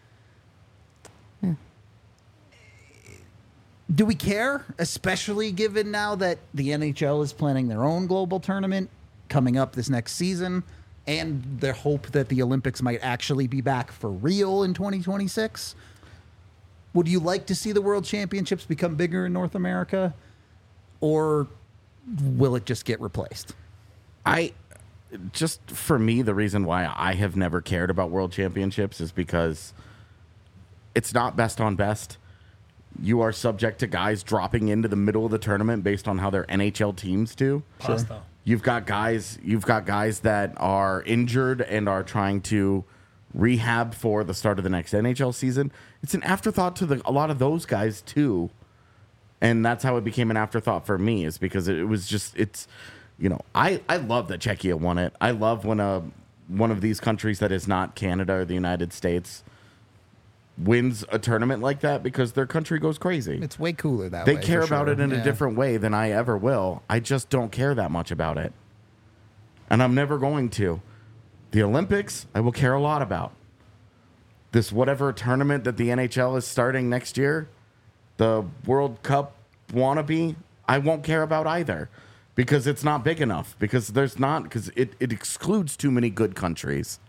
Do we care, especially given now that the N H L is planning their own global tournament coming up this next season, and the hope that the Olympics might actually be back for real in twenty twenty-six? Would you like to see the World Championships become bigger in North America, or will it just get replaced? I just for me, the reason why I have never cared about World Championships is because it's not best on best. You are subject to guys dropping into the middle of the tournament based on how their N H L teams do. Pasta. You've got guys. You've got guys that are injured and are trying to rehab for the start of the next N H L season. It's an afterthought to the, a lot of those guys too, and that's how it became an afterthought for me. Is because it, was just it's, you know, I I love that Czechia won it. I love when a one of these countries that is not Canada or the United States wins a tournament like that, because their country goes crazy. It's way cooler that They way. care for about sure. it in Yeah. a different way than I ever will. I just don't care that much about it. And I'm never going to. The Olympics, I will care a lot about. This whatever tournament that the N H L is starting next year, the World Cup wannabe, I won't care about either, because it's not big enough. Because there's not, because it, it excludes too many good countries.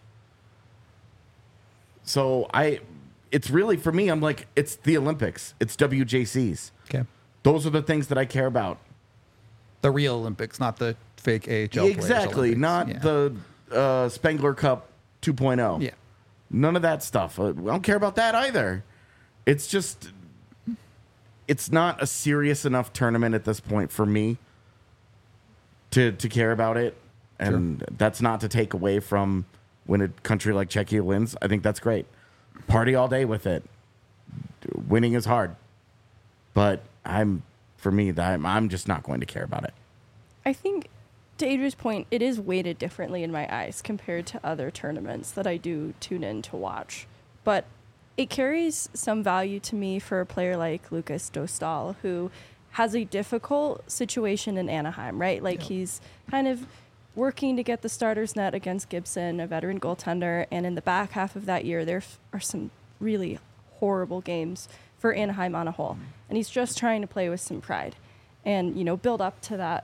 So I... It's really, for me, I'm like, it's the Olympics. It's W J Cs. Okay. Those are the things that I care about. The real Olympics, not the fake A H L players Exactly. Olympics. Not Yeah. the uh, Spengler Cup two point oh. Yeah. None of that stuff. I don't care about that either. It's just, it's not a serious enough tournament at this point for me to, to care about it. And that's not to take away from when a country like Czechia wins. I think that's great. Party all day with it. Winning is hard, but I'm for me that I'm, I'm just not going to care about it. I think, to Adria's point, it is weighted differently in my eyes compared to other tournaments that I do tune in to watch. But it carries some value to me for a player like Lucas Dostal, who has a difficult situation in Anaheim, right? Like, he's kind of working to get the starter's net against Gibson, a veteran goaltender, and in the back half of that year, there f- are some really horrible games for Anaheim on a whole. And he's just trying to play with some pride and, you know, build up to that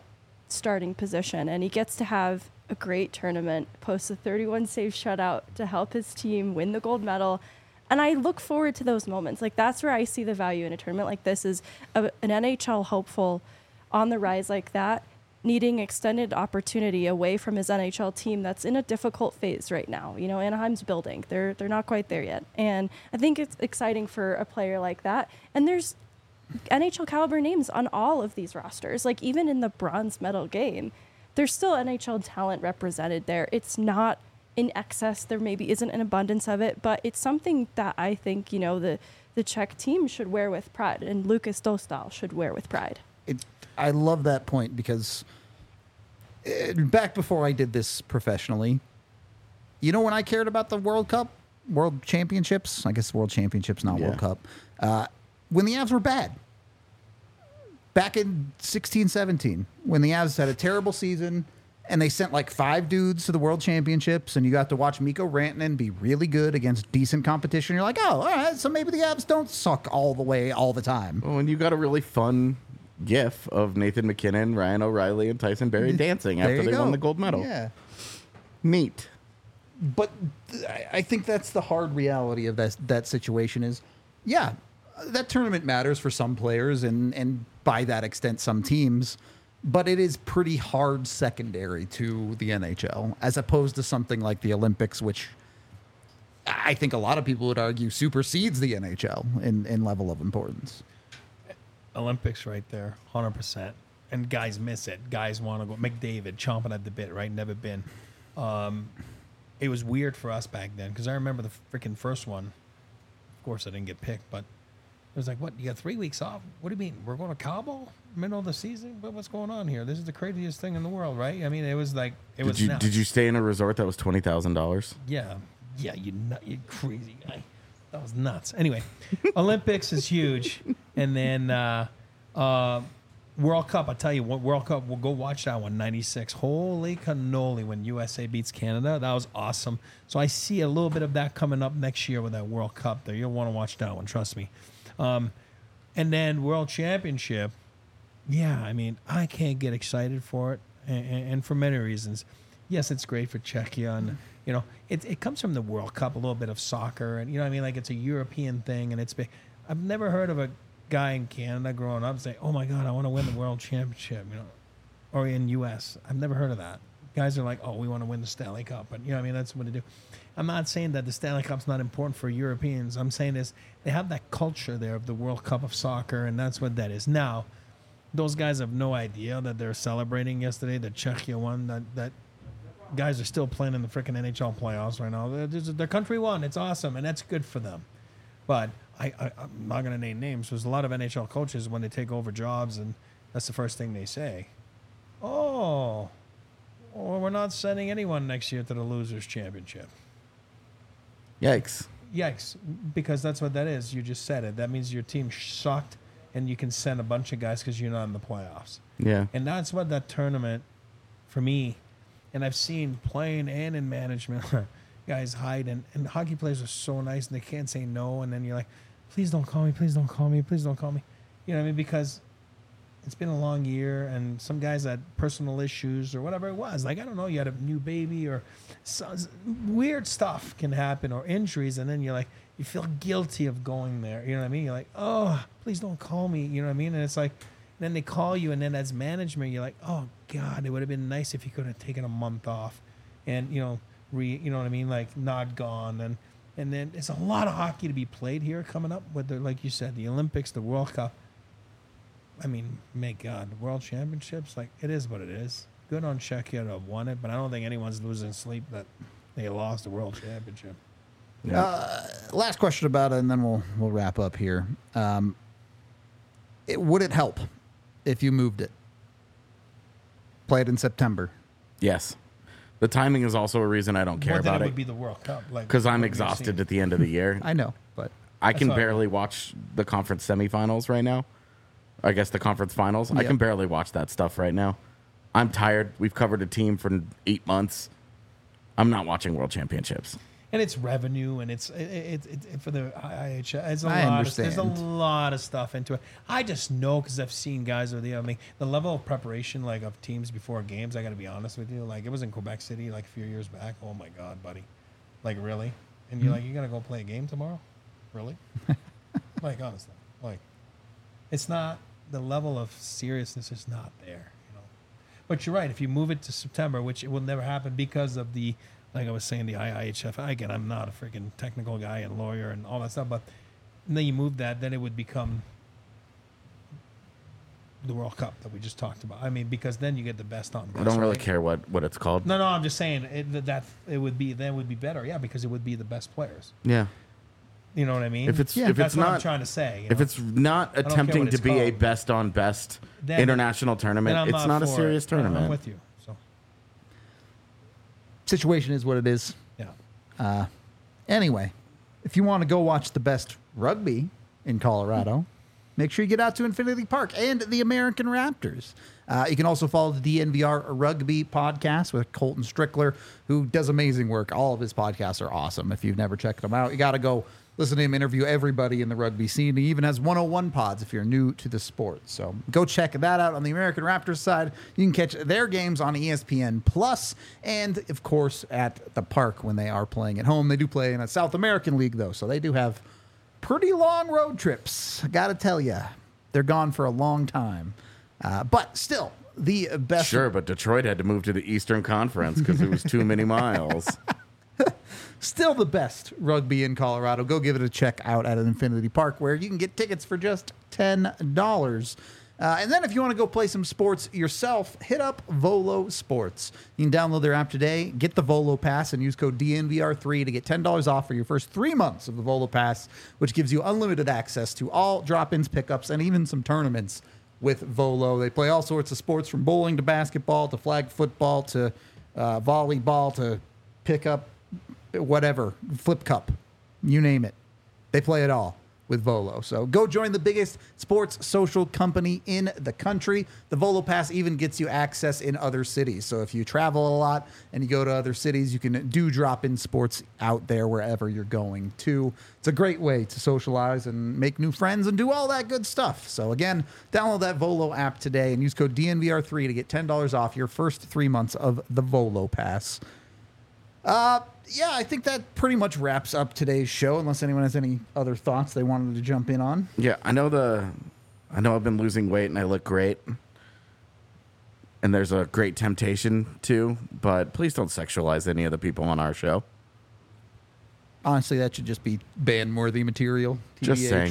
starting position, and he gets to have a great tournament, post a thirty-one save shutout to help his team win the gold medal. And I look forward to those moments. Like, that's where I see the value in a tournament like this, is a, an N H L hopeful on the rise like that, needing extended opportunity away from his N H L team that's in a difficult phase right now. You know, Anaheim's building. They're they're not quite there yet. And I think it's exciting for a player like that. And there's N H L caliber names on all of these rosters. Like, even in the bronze medal game, there's still N H L talent represented there. It's not in excess. There maybe isn't an abundance of it, but it's something that I think, you know, the, the Czech team should wear with pride, and Lucas Dostal should wear with pride. It, I love that point because uh, back before I did this professionally, you know, when I cared about the World Cup, World Championships, I guess World Championships, not Yeah. World Cup, uh, when the Avs were bad. Back in sixteen seventeen, when the Avs had a terrible season and they sent like five dudes to the World Championships, and you got to watch Mikko Rantanen be really good against decent competition, you're like, oh, all right, so maybe the Avs don't suck all the way all the time. Oh, and you got a really fun gif of Nathan McKinnon, Ryan O'Reilly, and Tyson Berry dancing There after you they go. won the gold medal. Yeah. Neat. But th- I- I think that's the hard reality of that that situation is, yeah, that tournament matters for some players and, and by that extent some teams, but it is pretty hard secondary to the N H L as opposed to something like the Olympics, which I think a lot of people would argue supersedes the N H L in, in level of importance. Olympics right there, one hundred percent. And guys miss it. Guys want to go. McDavid chomping at the bit, right? Never been. Um, it was weird for us back then because I remember the freaking first one. Of course, I didn't get picked, but it was like, what? You got three weeks off? What do you mean? We're going to Cabo? Middle of the season? What, what's going on here? This is the craziest thing in the world, right? I mean, it was like, it Did was you nuts. did you stay in a resort that was twenty thousand dollars? Yeah, yeah, you nut, you crazy guy. That was nuts. Anyway, Olympics is huge, and then uh, uh, World Cup. I tell you what, World Cup. We'll go watch that one. ninety-six. Holy cannoli! When U S A beats Canada, that was awesome. So I see a little bit of that coming up next year with that World Cup. There, you'll want to watch that one. Trust me. Um, and then World Championship. Yeah, I mean, I can't get excited for it, and, and for many reasons. Yes, it's great for Czechia, and you know, it it comes from the World Cup, a little bit of soccer, and you know, what I mean, like it's a European thing, and it's big. I've never heard of a guy in Canada growing up say, "Oh my God, I want to win the World Championship," you know, or in U S. I've never heard of that. Guys are like, "Oh, we want to win the Stanley Cup," but you know, what I mean, that's what they do. I'm not saying that the Stanley Cup's not important for Europeans. I'm saying is they have that culture there of the World Cup of soccer, and that's what that is. Now, those guys have no idea that they're celebrating yesterday, the Czechia won, that, that guys are still playing in the freaking N H L playoffs right now. They're, their country won. It's awesome, and that's good for them. But I, I, I'm not going to name names. There's a lot of N H L coaches when they take over jobs, and that's the first thing they say. Oh, well, we're not sending anyone next year to the Losers Championship. Yikes. Yikes, because that's what that is. You just said it. That means your team sucked, and you can send a bunch of guys because you're not in the playoffs. Yeah. And that's what that tournament, for me, and I've seen playing and in management, guys hide, and, and hockey players are so nice, and they can't say no, and then you're like, please don't call me, please don't call me, please don't call me. You know what I mean? Because it's been a long year, and some guys had personal issues or whatever it was. Like, I don't know, you had a new baby or so, weird stuff can happen, or injuries, and then you're like, you feel guilty of going there. You know what I mean? You're like, oh, please don't call me. You know what I mean? And it's like, then they call you, and then as management, you're like, oh, God, it would have been nice if you could have taken a month off and, you know, re, you know what I mean? Like, not gone. And, and then there's a lot of hockey to be played here coming up with, the, like you said, the Olympics, the World Cup. I mean, may God, World Championships, like, it is what it is. Good on Czechia to have won it, but I don't think anyone's losing sleep that they lost the World Championship. Yeah. Uh, last question about it, and then we'll we'll wrap up here. Um, it, would it help if you moved it? Play it in September. Yes. The timing is also a reason I don't care Well, then about it it would be the World Cup, like because I'm what we've exhausted seen. at the end of the year. I know, but I can That's all right. barely watch the conference semifinals right now. I guess the conference finals. I Yep. can barely watch that stuff right now. I'm tired. We've covered a team for eight months. I'm not watching World Championships. and it's revenue, and it's it, it, it, it for the I H L. It's a I lot. understand. Of, there's a lot of stuff into it. I just know because I've seen guys with the. I mean, the level of preparation like of teams before games. I got to be honest with you. Like it was in Quebec City like a few years back. Oh my God, buddy! Like really? And you're Mm-hmm. like, you gotta go play a game tomorrow? Really? Like honestly, like it's not the level of seriousness is not there. You know. But you're right. If you move it to September, which it will never happen because of the. Like I was saying, the I I H F. Again, I'm not a freaking technical guy and lawyer and all that stuff, but then you move that, then it would become the World Cup that we just talked about. I mean, because then you get the best on best. I don't really right? care what, what it's called. No, no, I'm just saying it, that, that it would be then would be better. Yeah, because it would be the best players. Yeah. You know what I mean? If it's Yeah, if that's it's what not I'm trying to say. you if know? it's not care attempting what to it's be a called. best on best Then- international then tournament, I'm it's not a for serious it. I'm- tournament. I'm with you. So Situation is what it is. yeah. Uh, anyway, if you want to go watch the best rugby in Colorado, make sure you get out to Infinity Park and the American Raptors. Uh, you can also follow the D N V R Rugby podcast with Colton Strickler, who does amazing work. All of his podcasts are awesome. If you've never checked them out, you got to go listen to him interview everybody in the rugby scene. He even has one oh one pods if you're new to the sport. So go check that out on the American Raptors side. You can catch their games on E S P N Plus, and of course at the park when they are playing at home. They do play in a South American league though, so they do have pretty long road trips. I gotta tell you, they're gone for a long time, uh, but still the best. Sure, but Detroit had to move to the Eastern Conference because it was too many miles. Still the best rugby in Colorado. Go give it a check out at Infinity Park, where you can get tickets for just ten dollars. Uh, and then if you want to go play some sports yourself, hit up Volo Sports. You can download their app today, get the Volo Pass, and use code D N V R three to get ten dollars off for your first three months of the Volo Pass, which gives you unlimited access to all drop-ins, pickups, and even some tournaments with Volo. They play all sorts of sports, from bowling to basketball to flag football to uh, volleyball to pickup, whatever, flip cup, you name it. They play it all with Volo. So go join the biggest sports social company in the country. The Volo Pass even gets you access in other cities. So if you travel a lot and you go to other cities, you can do drop-in sports out there wherever you're going to. It's a great way to socialize and make new friends and do all that good stuff. So again, download that Volo app today and use code D N V R three to get ten dollars off your first three months of the Volo Pass. Uh, yeah, I think that pretty much wraps up today's show, unless anyone has any other thoughts they wanted to jump in on. Yeah, I know the I know I've been losing weight and I look great. And there's a great temptation to, but please don't sexualize any of the people on our show. Honestly, that should just be ban-worthy material. T B H. Just saying.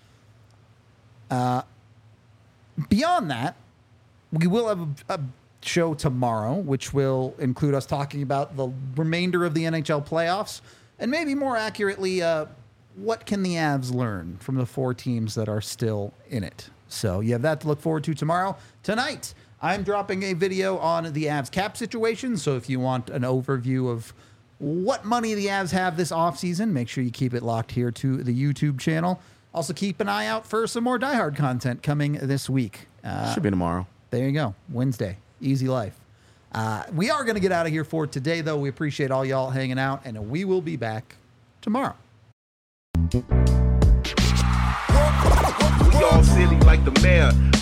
Uh, beyond that, we will have a, a show tomorrow, which will include us talking about the remainder of the N H L playoffs, and maybe more accurately, uh, what can the Avs learn from the four teams that are still in it. So you have that to look forward to tomorrow. Tonight, I'm dropping a video on the Avs cap situation, so if you want an overview of what money the Avs have this offseason, make sure you keep it locked here to the YouTube channel. Also, keep an eye out for some more Die Hard content coming this week. Uh, Should be tomorrow. there you go. Wednesday. Easy life. Uh, we are going to get out of here for today, though. We appreciate all y'all hanging out, and we will be back tomorrow. We all silly like the mayor.